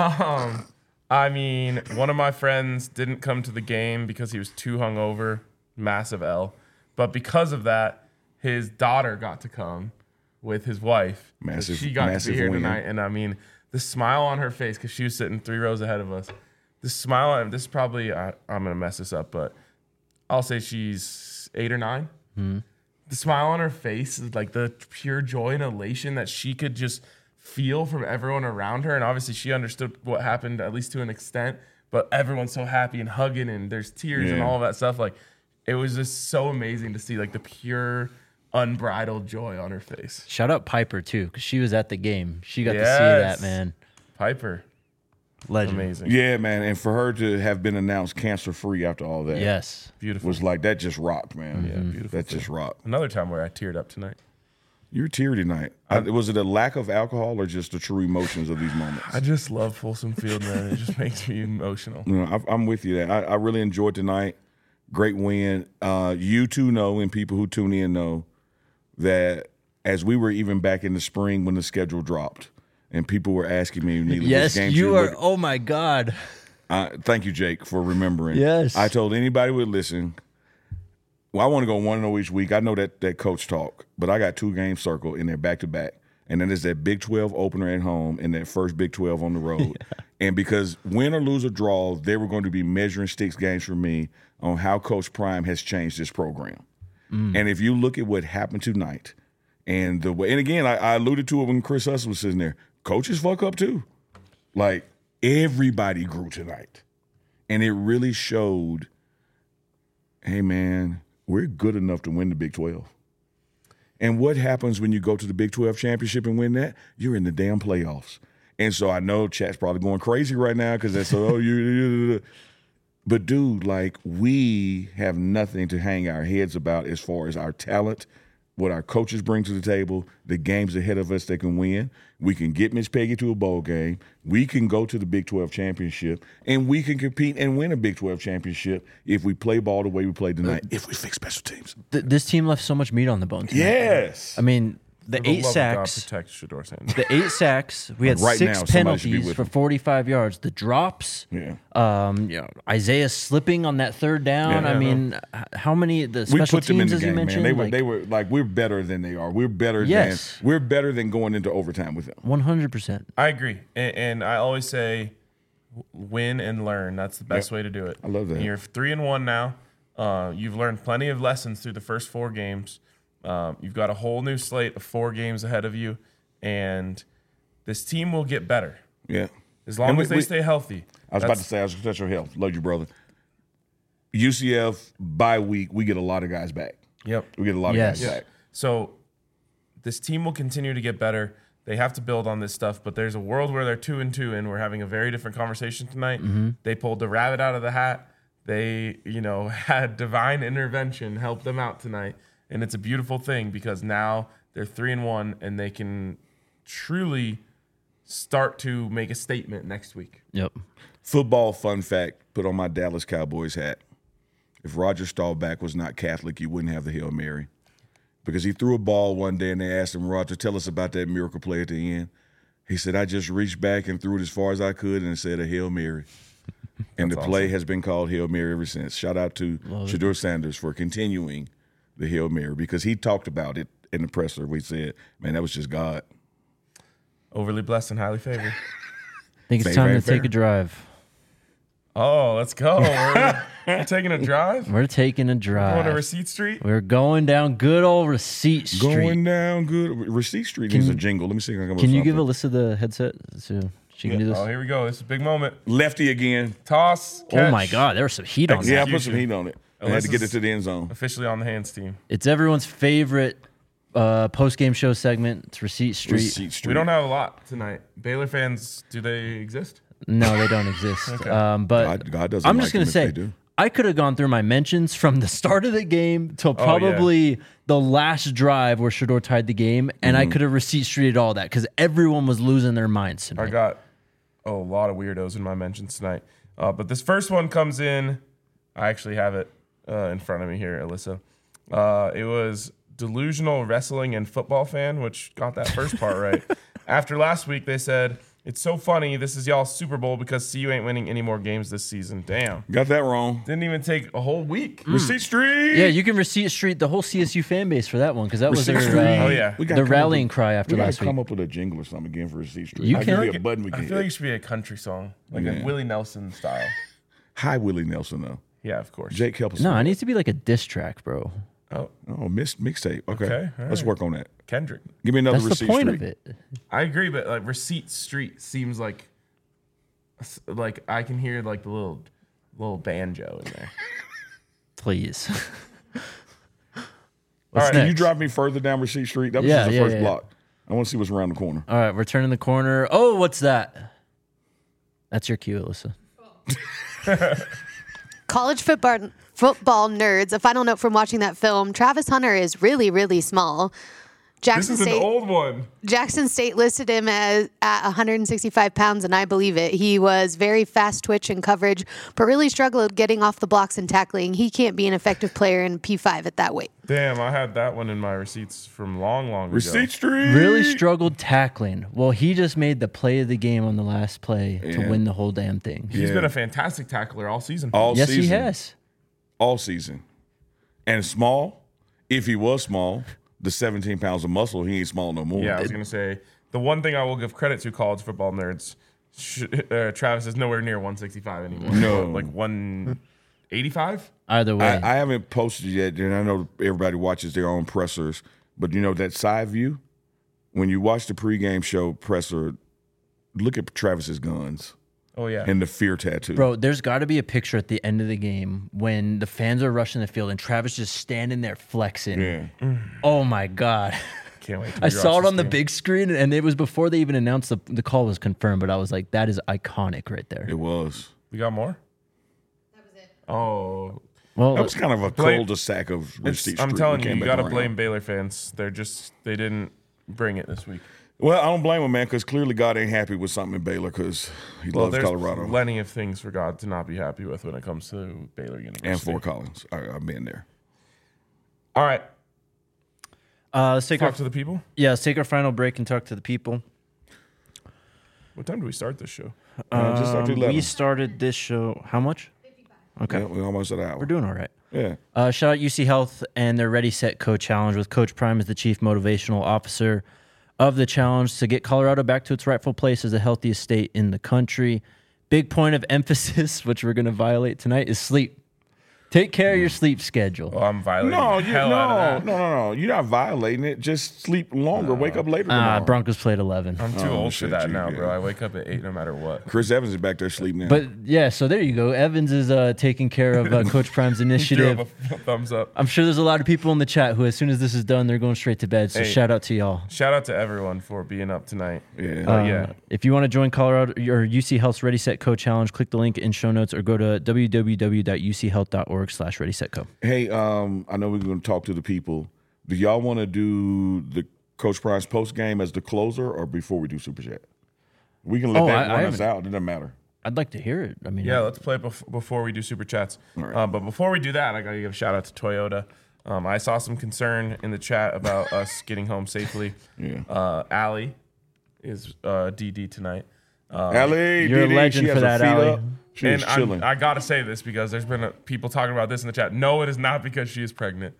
I mean, one of my friends didn't come to the game because he was too hungover, massive L. But because of that, his daughter got to come with his wife. So Massive- she got to massive be here win. tonight, and I mean, the smile on her face because she was sitting 3 rows ahead of us. The smile on this is probably I'm gonna mess this up, but I'll say she's 8 or 9. The smile on her face is like the pure joy and elation that she could just feel from everyone around her. And obviously she understood what happened, at least to an extent, but everyone's so happy and hugging and there's tears and Yeah. all of that stuff. Like, it was just so amazing to see like the pure unbridled joy on her face. Shout out Piper, too, because she was at the game. She got to see Yes. that, man. Piper, Legend. amazing. Yeah, man. And for her to have been announced cancer free after all that Yes. Beautiful. was like, that just rocked, man. Yeah, beautiful That just rocked. Another time where I teared up tonight. You were teary tonight. Was it a lack of alcohol or just the true emotions of these moments? I just love Folsom Field, man. It just makes me emotional. You know, I'm with you there. I really enjoyed tonight. Great win. You two know, and people who tune in know, that as we were even back in the spring when the schedule dropped, and people were asking me, Neely, which Yes, games you are. look- Oh, my God. Thank you, Jake, for remembering. Yes. I told anybody who would listen, well, I want to go 1-0 each week. I know that coach talk, but I got 2 games circled, and they're back-to-back. And then there's that Big 12 opener at home and that first Big 12 on the road. And because win or lose or draw, they were going to be measuring sticks games for me on how Coach Prime has changed this program. And if you look at what happened tonight, and the way, and again, I alluded to it when Chris Hustle was sitting there, coaches fuck up too. Like, everybody grew tonight. And it really showed, hey, man, we're good enough to win the Big 12. And what happens when you go to the Big 12 championship and win that? You're in the damn playoffs. And so I know chat's probably going crazy right now because that's but dude, like we have nothing to hang our heads about as far as our talent, what our coaches bring to the table, the games ahead of us that can win. We can get Miss Peggy to a bowl game. We can go to the Big 12 championship, and we can compete and win a Big 12 championship if we play ball the way we played tonight, if we fix special teams. This team left so much meat on the bone tonight. Yes. I mean, the For the 8 love of God, sacks. protect Shedeur Sanders. The 8 sacks. We had Right now, 6 somebody should be penalties with for him. 45 yards. The drops. Yeah. Isaiah slipping on that third down. Yeah. I mean, how many the We special put them in teams the as you game, man. mentioned? They were like we're better than they are. We're better Yes. than going into overtime with them. 100%. I agree, and I always say, win and learn. That's the best way to do it. I love that. And you're 3-1 now. You've learned plenty of lessons through the first 4 games. You've got a whole new slate of 4 games ahead of you, and this team will get better Yeah. as long And as they stay healthy. I was about to say, I was going to touch your health. Love you, brother. UCF, bye week, we get a lot of guys back. Yep. We get a lot of Yes. guys back. So this team will continue to get better. They have to build on this stuff, but there's a world where they're 2-2, and we're having a very different conversation tonight. They pulled the rabbit out of the hat. They, had divine intervention help them out tonight, and it's a beautiful thing because now they're 3-1, and they can truly start to make a statement next week. Yep. Football fun fact, put on my Dallas Cowboys hat. If Roger Staubach was not Catholic, you wouldn't have the Hail Mary. Because he threw a ball one day and they asked him, Roger, tell us about that miracle play at the end. He said, I just reached back and threw it as far as I could and it said a Hail Mary. And the play has been called Hail Mary ever since. Shout out to Shedeur Sanders for continuing the Hail Mary because he talked about it in the presser. We said, man, that was just God. Overly blessed and highly favored. I think it's Fair, time very to take fair. a drive. Oh, let's go. We're taking a drive. We're taking a Going to drive. Receipt Street. We're going down good old Receipt Street. Going down good. Receipt Street needs a jingle. Let me see if I can come up Can with you give something. Alyssa the headset so she can do this? Oh, here we go. This is a big moment. Lefty again. Toss. Oh Catch. my God, there was some heat on Yeah, I that. put some heat on it. I had to get it to the end zone. Officially on the hands team. It's everyone's favorite post-game show segment. It's Receipt Street. Receipt Street. We don't have a lot tonight. Baylor fans, do they exist? No, they don't exist. But God doesn't I'm like just going them to if say, they do. I could have gone through my mentions from the start of the game till yeah. probably the last drive where Shedeur tied the game, and Mm-hmm. I could have Receipt Streeted all that because everyone was losing their minds tonight. I got a lot of weirdos in my mentions tonight. But this first one comes in. I actually have it in front of me here, Alyssa. It was delusional wrestling and football fan, which got that first part right. After last week, they said, it's so funny. This is y'all's Super Bowl because CU ain't winning any more games this season. Damn. Got that wrong. Didn't even take a whole week. Receipt Street. Yeah, you can Receipt Street the whole CSU fan base for that one because that was Receipt their Street. Oh, yeah. We gotta the come up rallying with- cry after we last gotta come week. up with a jingle or something again for Receipt Street. You I can. Give me a button we I can feel like it hit. should be a country song, like Yeah. a Willie Nelson style. Hi, Willie Nelson, though. Yeah, of course. Jake, help us. No, with it that. needs to be like a diss track, bro. Oh, Mixtape. Okay. Okay, all Let's right. work on that. Kendrick. Give me another That's Receipt the point Street. of it. I agree, but like Receipt Street seems like I can hear like the little banjo in there. Please. All What's right, Can you next? drive me further down Receipt Street? That was Yeah, just the yeah, first yeah. block. I want to see what's around the corner. All right, we're turning the corner. Oh, what's that? That's your cue, Alyssa. College football nerds, a final note from watching that film. Travis Hunter is really, really small. This is an old one. Jackson State listed him as at 165 pounds, and I believe it. He was very fast twitch in coverage, but really struggled getting off the blocks and tackling. He can't be an effective player in P5 at that weight. Damn, I had that one in my receipts from long ago. Receipt Street. Really struggled tackling. Well, he just made the play of the game on the last play to Yeah. win the whole damn thing. He's Yeah. been a fantastic tackler all season. All Yes, season. he has. All season. And small. If he was small, the 17 pounds of muscle, he ain't small no more. Yeah, I was gonna say the one thing I will give credit to college football nerds. Travis is nowhere near 165 anymore. No. Like 185. Either way. I haven't posted yet, and I know everybody watches their own pressers, but you know that side view? When you watch the pregame show presser, look at Travis's guns Oh yeah. and the fear tattoo. Bro, there's got to be a picture at the end of the game when the fans are rushing the field and Travis just standing there flexing. Yeah. Oh my God. can't wait. To I saw rewatch it on this the game. big screen, and it was before they even announced the call was confirmed. But I was like, that is iconic right there. It was. We got more. That was it. Oh, Well, That was kind of a Blame- cul-de-sac of Rich Street. I'm telling We you, came you back got to around. blame Baylor fans. They didn't bring it this week. Well, I don't blame him, man, because clearly God ain't happy with something in Baylor because he loves there's Colorado plenty of things for God to not be happy with when it comes to Baylor University. and Fort Collins. I've been there. All right, let's take talk to the people. let's take our final break and talk to the people. What time do we start this show? Just after 11. We started this show. How much? Okay, Yeah, we're almost at an hour. we're doing all right. Yeah. Shout out UC Health and their Ready Set Co Challenge with Coach Prime as the chief motivational officer of the challenge to get Colorado back to its rightful place as the healthiest state in the country. Big point of emphasis, which we're going to violate tonight, is sleep. Take care of your sleep schedule. Oh, I'm violating No, the hell out of that. no. You're not violating it. Just sleep longer. Wake up later tomorrow. Broncos played 11. I'm too Oh, old for shit, that you- now, yeah. bro. I wake up at 8 no matter what. Chris Evans is back there sleeping now. But yeah, so there you go. Evans is taking care of Coach Prime's Threw initiative. up a thumbs up. I'm sure there's a lot of people in the chat who, as soon as this is done, they're going straight to bed. So Hey. shout out to y'all. Shout out to everyone for being up tonight. yeah. Yeah. If you want to join Colorado or UC Health's Ready Set Co Challenge, click the link in show notes or go to www.uchealth.org/readysetco. Hey, I know we're going to talk to the people. Do y'all want to do the Coach Price post game as the closer or before we do Super Chat? We can let that run us out. It doesn't matter. I'd like to hear it. I mean, Yeah, let's play before we do super chats. But before we do that, I got to give a shout out to Toyota. I saw some concern in the chat about us getting home safely. Yeah. Allie is DD tonight. Allie, you're a DD, legend she has for her that, feet Allie. up. She is chilling. I got to say this because there's been people talking about this in the chat. No, it is not because she is pregnant.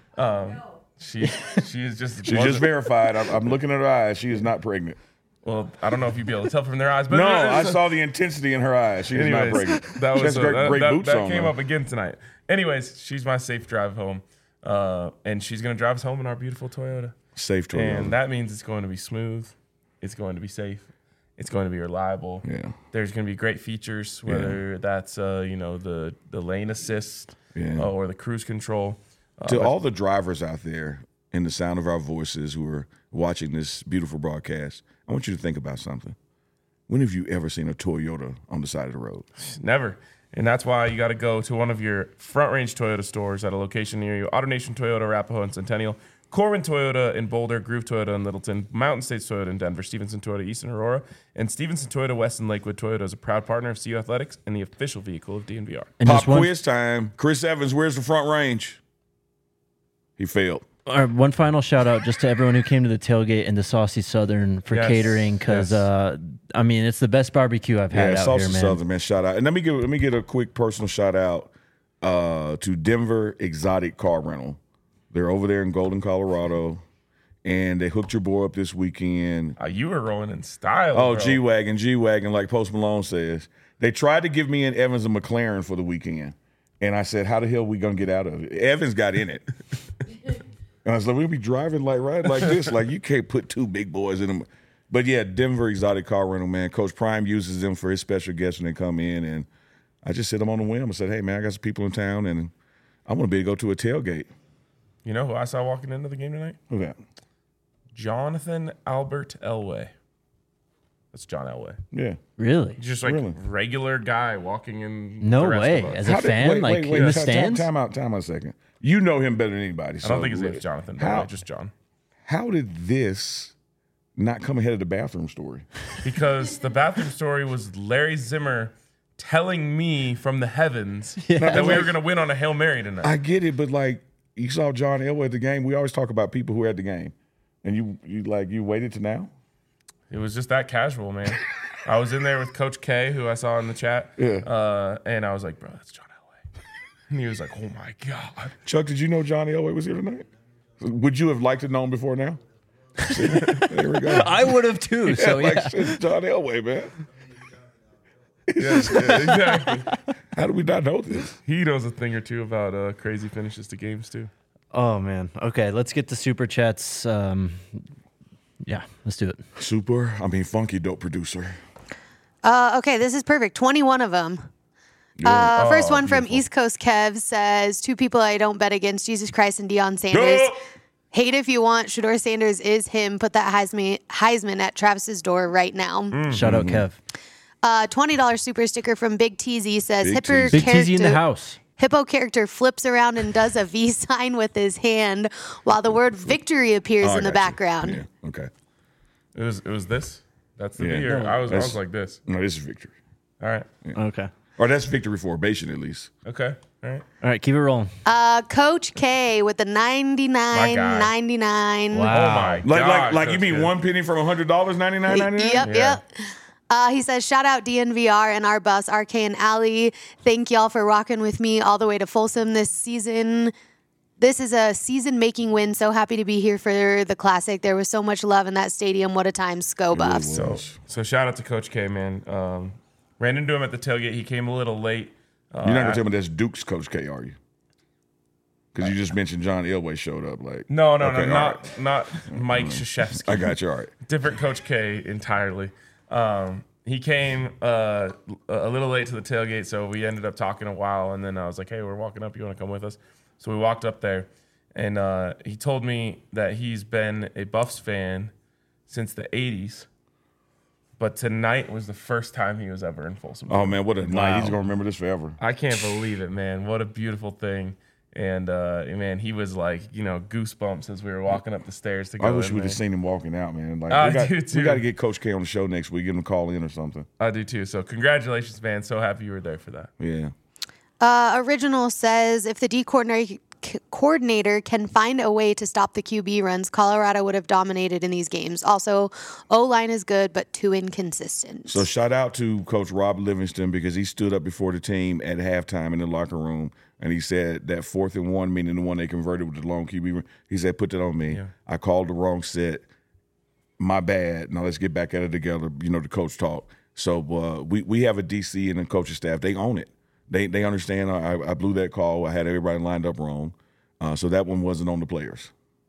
She is just. She just verified. I'm looking at her eyes. She is not pregnant. Well, I don't know if you'd be able to tell from their eyes, but No, I saw the intensity in her eyes. She is not Anyways, pregnant. that She was has great boots that on. came though. up again tonight. Anyways, she's my safe drive home, and she's gonna drive us home in our beautiful Toyota. Safe Toyota. And that means it's going to be smooth, it's going to be safe, it's going to be reliable. Yeah. There's going to be great features, whether that's the lane assist Yeah. or the cruise control. To all the drivers out there in the sound of our voices who are watching this beautiful broadcast, I want you to think about something. When have you ever seen a Toyota on the side of the road? Never. And that's why you got to go to one of your Front Range Toyota stores at a location near you. AutoNation Toyota, Arapahoe, and Centennial. Corbin Toyota in Boulder, Groove Toyota in Littleton, Mountain States Toyota in Denver, Stevenson Toyota East in Aurora, and Stevenson Toyota West in Lakewood. Toyota is a proud partner of CU Athletics and the official vehicle of DNVR. and Pop just one, quiz time. Chris Evans, where's the Front Range? He failed. one final shout out just to everyone who came to the tailgate and the Saucy Southern for Yes, catering because I mean it's the best barbecue I've had out Saucy here, man. Southern, man. Shout out. And let me get a quick personal shout out to Denver Exotic Car Rental. They're over there in Golden, Colorado, and they hooked your boy up this weekend. You were rolling in style. Oh, bro. G-Wagon, like Post Malone says. They tried to give me an Evans and McLaren for the weekend. And I said, how the hell are we going to get out of it? Evans got in it. And I was like, we'll be driving like this. Like, you can't put two big boys in them. But, yeah, Denver Exotic Car Rental, man. Coach Prime uses them for his special guests when they come in. And I just sit them on the whim and said, hey, man, I got some people in town, and I want to be able to go to a tailgate. You know who I saw walking into the game tonight? Who's that? Jonathan Albert Elway. That's John Elway. Yeah. Really? Just like Really? regular guy walking in. No the rest way. of us. As a fan, like in the stands. Time out a second. You know him better than anybody. I don't think his name's Jonathan. How- Just John. How did this not come ahead of the bathroom story? Because the bathroom story was Larry Zimmer telling me from the heavens that we were going to win on a Hail Mary tonight. I get it, but like you saw John Elway at the game. We always talk about people who were at the game, and you waited to now. It was just that casual, man. I was in there with Coach K, who I saw in the chat. Yeah. And I was like, bro, that's John Elway. And he was like, oh my God. Chuck, did you know John Elway was here tonight? Would you have liked to know him before now? See, there we go. I would have too. So yeah. Like, shit, John Elway, man. Yeah, exactly. How do we not know this? He knows a thing or two about crazy finishes to games, too. Oh man. Okay, let's get the super chats. Yeah, let's do it. Funky dope producer. Okay, this is perfect. 21 of them. First one from East Coast Kev says, two people I don't bet against, Jesus Christ and Deion Sanders. Hate if you want. Shedeur Sanders is him. Put that Heisman at Travis's door right now. Shout out Kev. $20 super sticker from Big TZ says Big Hipper TZ. Big TZ in the house. Hippo character flips around and does a V sign with his hand while the word victory appears Oh, I in the got you. background. Yeah. Okay. It was this. That's the Yeah. V. Or I was That's- like this. No, this is victory. All right. Okay. Or that's victory formation at least. Okay. All right. All right, keep it rolling. Coach K with the My guy. 99.99. Wow. Oh my God. Like you Coach mean K. 1 penny from $100, 99.99? Yep, Yeah. yep. He says, shout out DNVR and our bus, RK and Allie. Thank y'all for rocking with me all the way to Folsom this season. This is a season-making win. So happy to be here for the Classic. There was so much love in that stadium. What a time, Sco Buffs. So shout out to Coach K, man. Ran into him at the tailgate. He came a little late. You're not gonna tell me that's Duke's Coach K, are you? Because you just mentioned John Elway showed up. Like No, Okay, all right. not Mike Krzyzewski. I got you. All right. Different Coach K entirely. He came a little late to the tailgate, so we ended up talking a while, and then I was like, hey, we're walking up. You want to come with us? So we walked up there, and he told me that he's been a Buffs fan since the 80s, but tonight was the first time he was ever in Folsom. Oh man, what a night! He's gonna remember this forever. I can't believe it, man. What a beautiful thing. And, man, he was like, goosebumps as we were walking up the stairs to go I wish in we'd there. have seen him walking out, man. Like I do, too. we got to get Coach K on the show next week. Give him a call in or something. I do, too. So congratulations, man. So happy you were there for that. Yeah. Original says, if the D coordinator can find a way to stop the QB runs, Colorado would have dominated in these games. Also, O-line is good, but too inconsistent. So shout out to Coach Rob Livingston because he stood up before the team at halftime in the locker room and he said that 4th and 1, meaning the one they converted with the long QB run, he said, put that on me. Yeah. I called the wrong set. My bad. Now let's get back at it together. The coach talk. So we have a DC and a coaching staff. They own it. They understand. I blew that call. I had everybody lined up wrong. So that one wasn't on the players.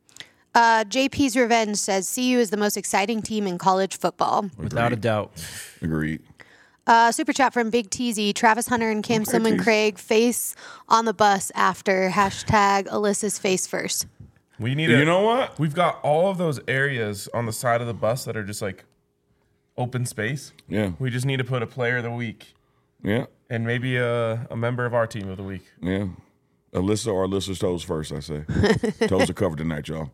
JP's Revenge says, CU is the most exciting team in college football. Without a doubt. Agreed. Super chat from Big TZ. Travis Hunter and Cam Simon Craig face on the bus after hashtag Alyssa's face first. We need You know what? We've got all of those areas on the side of the bus that are just like open space. Yeah. We just need to put a player of the week Yeah. and maybe a member of our team of the week. Yeah. Alyssa or Alyssa's toes first, I say. Toes are covered tonight, y'all.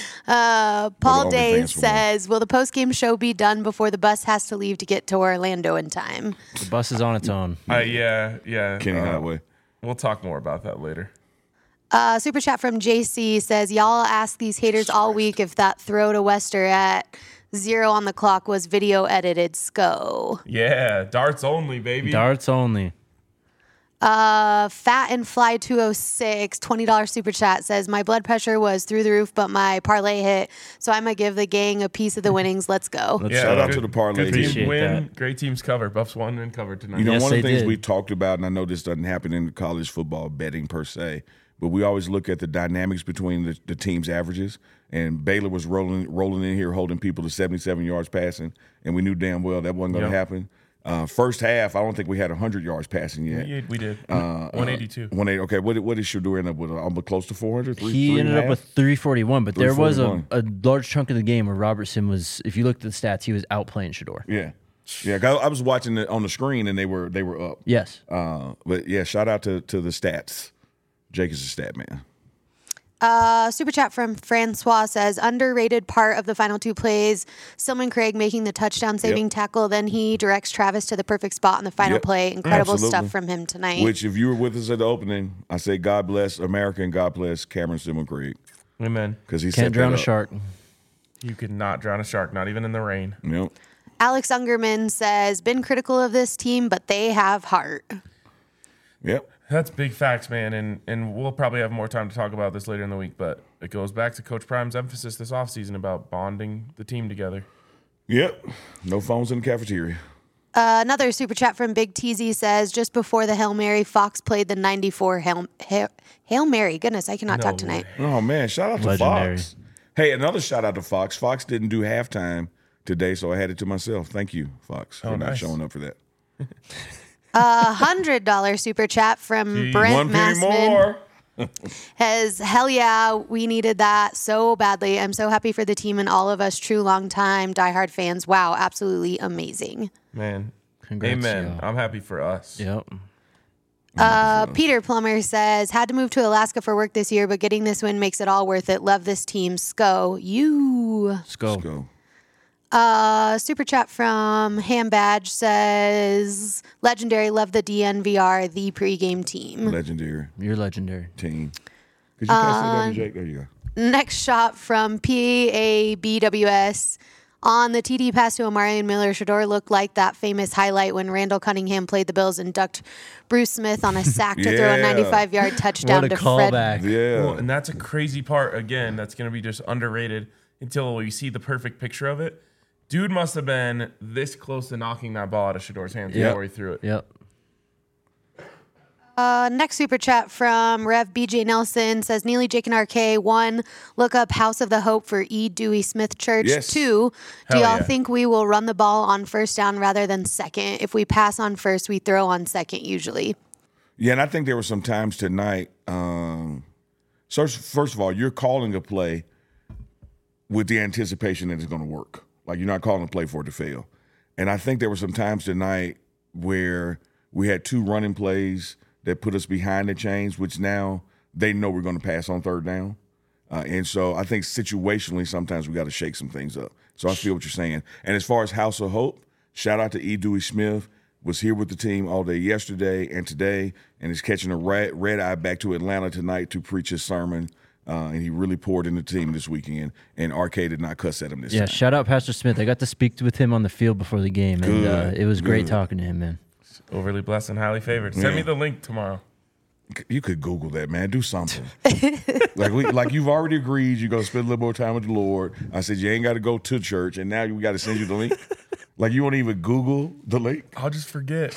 Paul OnlyFans Days for more. says, will the post-game show be done before the bus has to leave to get to Orlando in time? The bus is on its own. Yeah. Kenny Highway. We'll talk more about that later. Super chat from JC says, y'all ask these haters all week if that throw to Wester at 0 on the clock was video edited. Sco. Yeah, darts only, baby. Darts only. Fat and Fly 206, $20 super chat says, my blood pressure was through the roof, but my parlay hit, so I'm going to give the gang a piece of the winnings. Let's go. Let's Yeah, Shout out good- to the parlay Good team. team Appreciate win. that. Great teams cover. Buffs won and covered tonight. You know, Yes, one of the they things did. we talked about, and I know this doesn't happen in college football betting per se, but we always look at the dynamics between the team's averages. And Baylor was rolling in here, holding people to 77 yards passing, and we knew damn well that wasn't going to Yep. happen. First half, I don't think we had 100 yards passing yet. We did. 182. 180. Okay, what did Shedeur end up with? Almost close to 400. He ended up with 341, but there was a 341. large chunk of the game where Robertson was, if you looked at the stats, he was outplaying Shedeur. Yeah. I was watching it on the screen, and they were up. Yes. But yeah, shout out to the stats. Jake is a stat man. Super chat from Francois says, underrated part of the final two plays, Silman Craig making the touchdown saving tackle, then he directs Travis to the perfect spot on the final Yep. play. Incredible Absolutely. stuff from him tonight. Which, if you were with us at the opening, I say God bless America and God bless Cameron Simon Craig Amen. because he Can't set drown that a up. shark. You could not drown a shark, not even in the rain. Yep. Alex Ungerman says, been critical of this team, but they have heart. Yep. That's big facts, man, and we'll probably have more time to talk about this later in the week, but it goes back to Coach Prime's emphasis this offseason about bonding the team together. Yep. No phones in the cafeteria. Another super chat from Big TZ says, just before the Hail Mary, Fox played the 94 Hail Mary. Goodness, I cannot talk tonight. Oh, man. Shout out to Legendary. Fox. Hey, another shout out to Fox. Fox didn't do halftime today, so I had it to myself. Thank you, Fox, for not nice. showing up for that. $100 super chat from Brent One penny Massman. more. Hell yeah, we needed that so badly. I'm so happy for the team and all of us true long-time diehard fans. Wow, absolutely amazing. Man, Congrats, amen. y'all. I'm happy for us. Yep. Peter Plummer says, had to move to Alaska for work this year, but getting this win makes it all worth it. Love this team. Sco. You. Let's go. Let's go. Super chat from Ham Badge says, legendary, love the DNVR, the pregame team. Legendary You're legendary. team. Could you pass that over, Jake? There you go. Next shot from PABWS. On the TD pass to Omarion Miller, Shador looked like that famous highlight when Randall Cunningham played the Bills and ducked Bruce Smith on a sack to throw a Yeah. 95-yard touchdown What a to Fred. callback. Yeah. Well, and that's a crazy part, again, that's going to be just underrated until you see the perfect picture of it. Dude must have been this close to knocking that ball out of Shador's hands Yep. before he threw it. Yep. Next super chat from Rev BJ Nelson says, Neely, Jake, and RK. 1, look up House of the Hope for E. Dewey Smith Church. Yes. 2, do Hell y'all yeah. think we will run the ball on first down rather than second? If we pass on first, we throw on second usually. Yeah, and I think there were some times tonight. So first of all, you're calling a play with the anticipation that it's going to work. Like, you're not calling a play for it to fail. And I think there were some times tonight where we had 2 running plays that put us behind the chains, which now they know we're going to pass on third down. And so I think situationally, sometimes we got to shake some things up. So I feel what you're saying. And as far as House of Hope, shout out to E. Dewey Smith. Was here with the team all day yesterday and today, and is catching a red eye back to Atlanta tonight to preach his sermon. And he really poured in the team this weekend. And RK did not cuss at him this Yeah, time. shout out Pastor Smith. I got to speak with him on the field before the game, and Good, it was great good. talking to him, man. Overly blessed and highly favored. Send me the link tomorrow. You could Google that, man. Do something. like you've already agreed you're going to spend a little more time with the Lord. I said you ain't got to go to church, and now we got to send you the link. Like, you won't even Google the link? I'll just forget.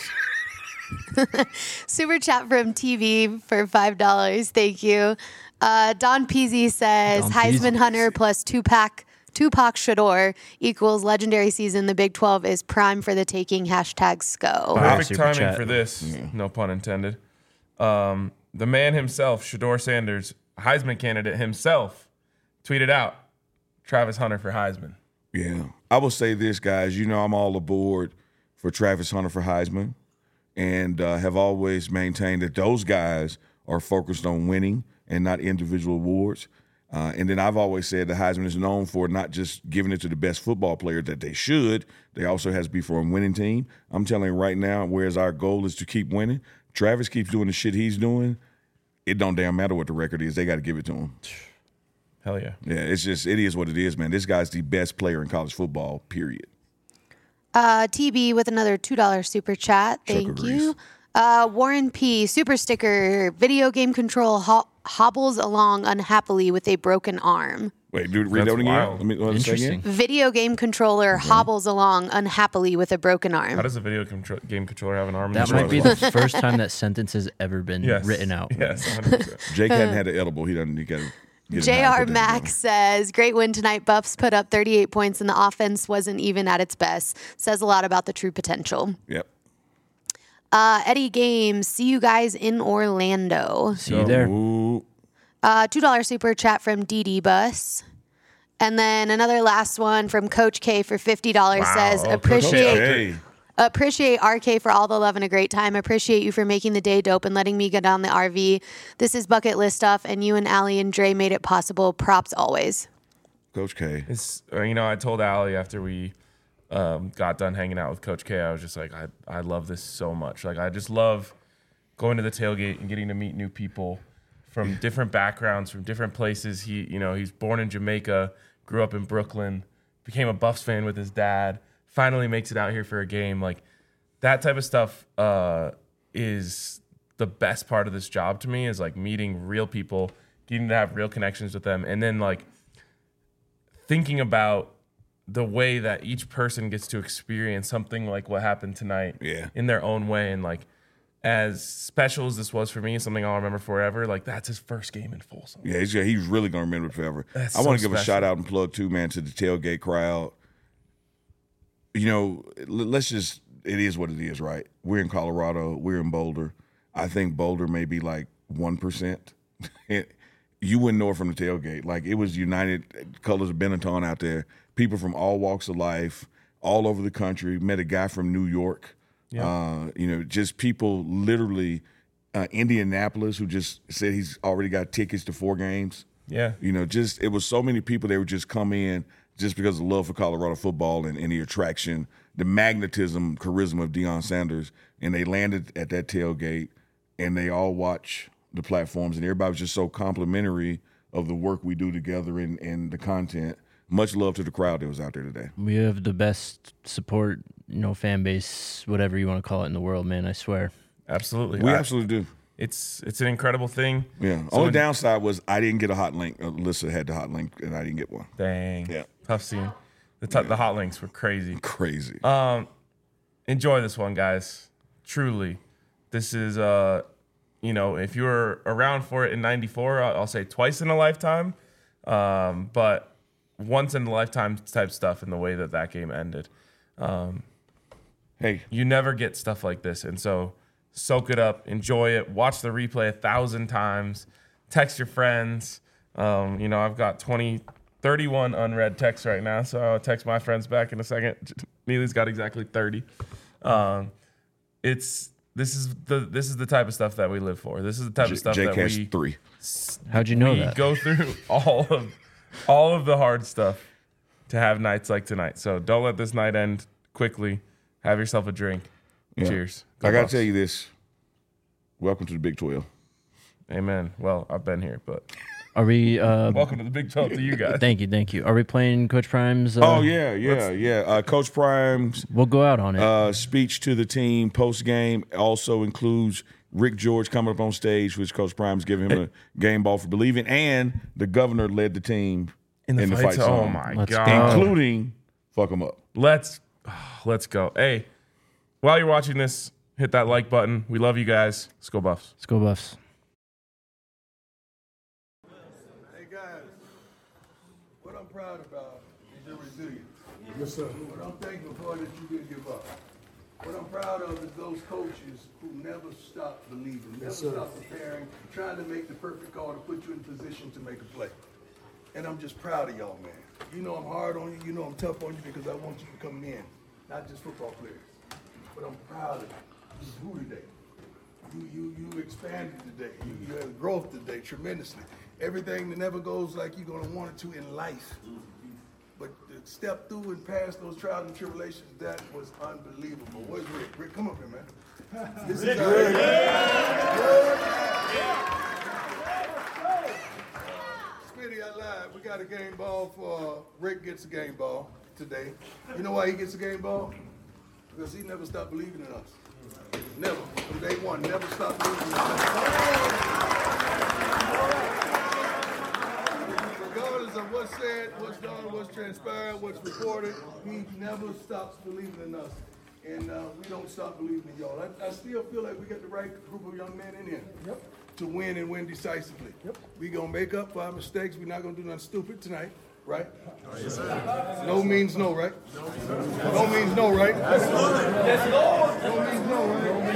Super chat from TV for $5. Thank you. Don Peasy says, Don Heisman Peasy. Hunter plus Tupac Shador equals legendary season. The Big 12 is prime for the taking. Hashtag SCO. Wow. Perfect Super timing chat. for this. No pun intended. The man himself, Shador Sanders, Heisman candidate himself, tweeted out Travis Hunter for Heisman. Yeah. I will say this, guys. You know I'm all aboard for Travis Hunter for Heisman, and have always maintained that those guys are focused on winning and not individual awards. And then I've always said the Heisman is known for not just giving it to the best football player that they should. They also has to be for a winning team. I'm telling you right now, whereas our goal is to keep winning, Travis keeps doing the shit he's doing. It don't damn matter what the record is. They got to give it to him. Hell yeah. Yeah, it is what it is, man. This guy's the best player in college football, period. TB with another $2 super chat. Thank Chuck you. Warren P. Super sticker. Video game control hobbles along unhappily with a broken arm. Wait, dude, read That's that again. wild. Let me say Interesting. again. Video game controller hobbles along unhappily with a broken How arm. does a video game controller have an arm? in That the might be shoulder? the first time that sentence has ever been Yes. written out. Yes, 100%. Jake hadn't had an edible. He got to get him high to JR put that Mack together. says, great win tonight. Buffs put up 38 points and the offense wasn't even at its best. Says a lot about the true potential. Yep. Eddie Games, see you guys in Orlando. See you there. Ooh. $2 super chat from DD Bus. And then another last one from Coach K for $50 says, Oh, Coach appreciate K. Hey. RK for all the love and a great time. Appreciate you for making the day dope and letting me get on the RV. This is bucket list stuff, and you and Allie and Dre made it possible. Props always. Coach K. It's I told Allie after we got done hanging out with Coach K, I was just like, I love this so much. Like, I just love going to the tailgate and getting to meet new people from different backgrounds, from different places. He's born in Jamaica, grew up in Brooklyn, became a Buffs fan with his dad, finally makes it out here for a game. Like, that type of stuff is the best part of this job to me, is like meeting real people, getting to have real connections with them, and then like thinking about the way that each person gets to experience something like what happened tonight in their own way. And like, as special as this was for me, something I'll remember forever, like that's his first game in Folsom. Yeah, he's really going to remember it forever. That's I want so to give a special. shout out and plug, too, man, to the tailgate crowd. Let's just, it is what it is, right? We're in Colorado. We're in Boulder. I think Boulder may be like 1%, you wouldn't know it from the tailgate. Like, it was United Colors of Benetton out there. People from all walks of life, all over the country. Met a guy from New York. Yeah. Just people literally. Indianapolis, who just said he's already got tickets to 4 games. Yeah. It was so many people that would just come in just because of love for Colorado football and the attraction, the magnetism, charisma of Deion Sanders. And they landed at that tailgate, and they all watch the platforms, and everybody was just so complimentary of the work we do together and the content. Much love to the crowd that was out there today. We have the best support, fan base, whatever you want to call it in the world, man, I swear. Absolutely. We absolutely do. It's an incredible thing. Yeah. So Only downside was I didn't get a hot link. Alyssa had the hot link, and I didn't get one. Dang. Yeah. Tough scene. The hot links were crazy. Crazy. Enjoy this one, guys. Truly. This is, if you were around for it in 94, I'll say twice in a lifetime. But once in a lifetime type stuff in the way that game ended. Hey. You never get stuff like this. And so soak it up, enjoy it, watch the replay 1,000 times, text your friends. I've got 31 unread texts right now, so I'll text my friends back in a second. Neely's got exactly 30. This is the type of stuff that we live for. This is the type of stuff Jake that has we 3. How'd you know we that? go through all of the hard stuff to have nights like tonight. So don't let this night end quickly. Have yourself a drink. Yeah. Cheers. I got to Buffs. tell you this. Welcome to the Big 12. Amen. Well, I've been here, but Are we? welcome to the Big 12 to you guys. Thank you. Are we playing Coach Prime's? Yeah. Coach Prime's We'll go out on it. speech to the team post-game also includes Rick George coming up on stage, which Coach Prime's giving him a game ball for believing, and the governor led the team in the fight Oh, song, my Let's God. including fuck 'em up. Let's go. Hey, while you're watching this, hit that like button. We love you guys. Let's go Buffs. Let's go Buffs. Hey guys, what I'm proud about is your resilience. Yes, sir. What I'm thankful for is that you didn't give up. What I'm proud of is those coaches who never stopped believing, never stopped preparing, trying to make the perfect call to put you in position to make a play. And I'm just proud of y'all, man. You know I'm hard on you. You know I'm tough on you because I want you to come in, not just football players. But I'm proud of you. You grew today. You expanded today. You had growth today tremendously. Everything that never goes like you're going to want it to in life. But to step through and pass those trials and tribulations, that was unbelievable. Where's Rick? Rick, come up here, man. This is Smitty, I lied. We got a game ball for Rick gets a game ball today. You know why he gets a game ball? Because he never stopped believing in us. Never. From day one, never stopped believing in us. Regardless of what's said, what's done, what's transpired, what's reported, he never stops believing in us. And we don't stop believing in y'all. I still feel like we got the right group of young men in here to win and win decisively. We going to make up for our mistakes. We're not going to do nothing stupid tonight, right? Yes, sir. No means no, right? No means no, right? Yes, Lord. No means no,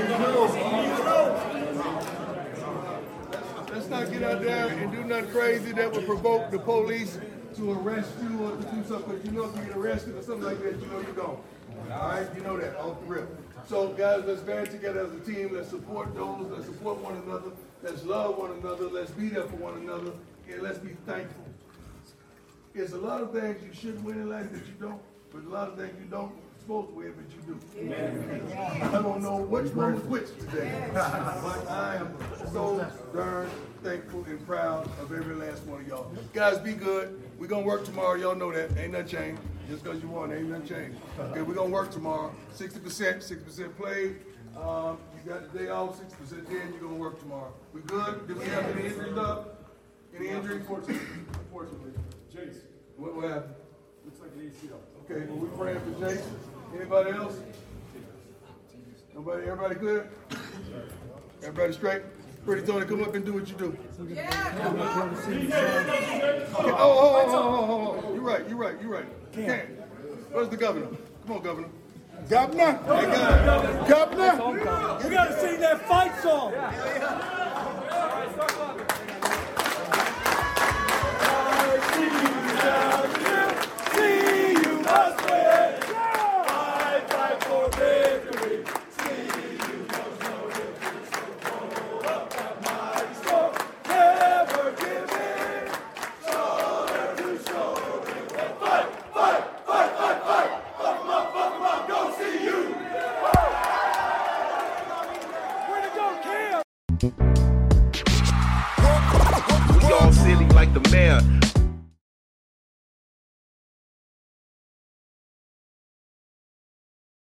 right? Let's not get out there and do nothing crazy that would provoke the police to arrest you or to do something. Because you know if you get arrested or something like that, you know you're gone. All right? You know that off the rip. So, guys, let's band together as a team. Let's support those. Let's support one another. Let's love one another. Let's be there for one another. And let's be thankful. There's a lot of things you shouldn't win in life that you don't, but a lot of things you don't supposed to win, but you do. Amen. I don't know which one was which today, but I am so darn thankful and proud of every last one of y'all. Guys, be good. We're going to work tomorrow. Y'all know that. Ain't nothing changed. Just because you won, ain't nothing changed. Okay, we're going to work tomorrow. 60% played. You got the day off, 60% in. You're going to work tomorrow. We good? Did we have any injuries up? Any injuries? Unfortunately. Jace. What happened? Looks like an ACL. Okay, well, we're praying for Jace. Anybody else? Nobody? Everybody good? Everybody straight? Pretty Tony, come up and do what you do. Yeah, okay. Oh. You're right. Cam. Where's the governor? Come on, governor. Governor? Hey, guys. Governor? You gotta sing that fight song. We all silly like the mayor.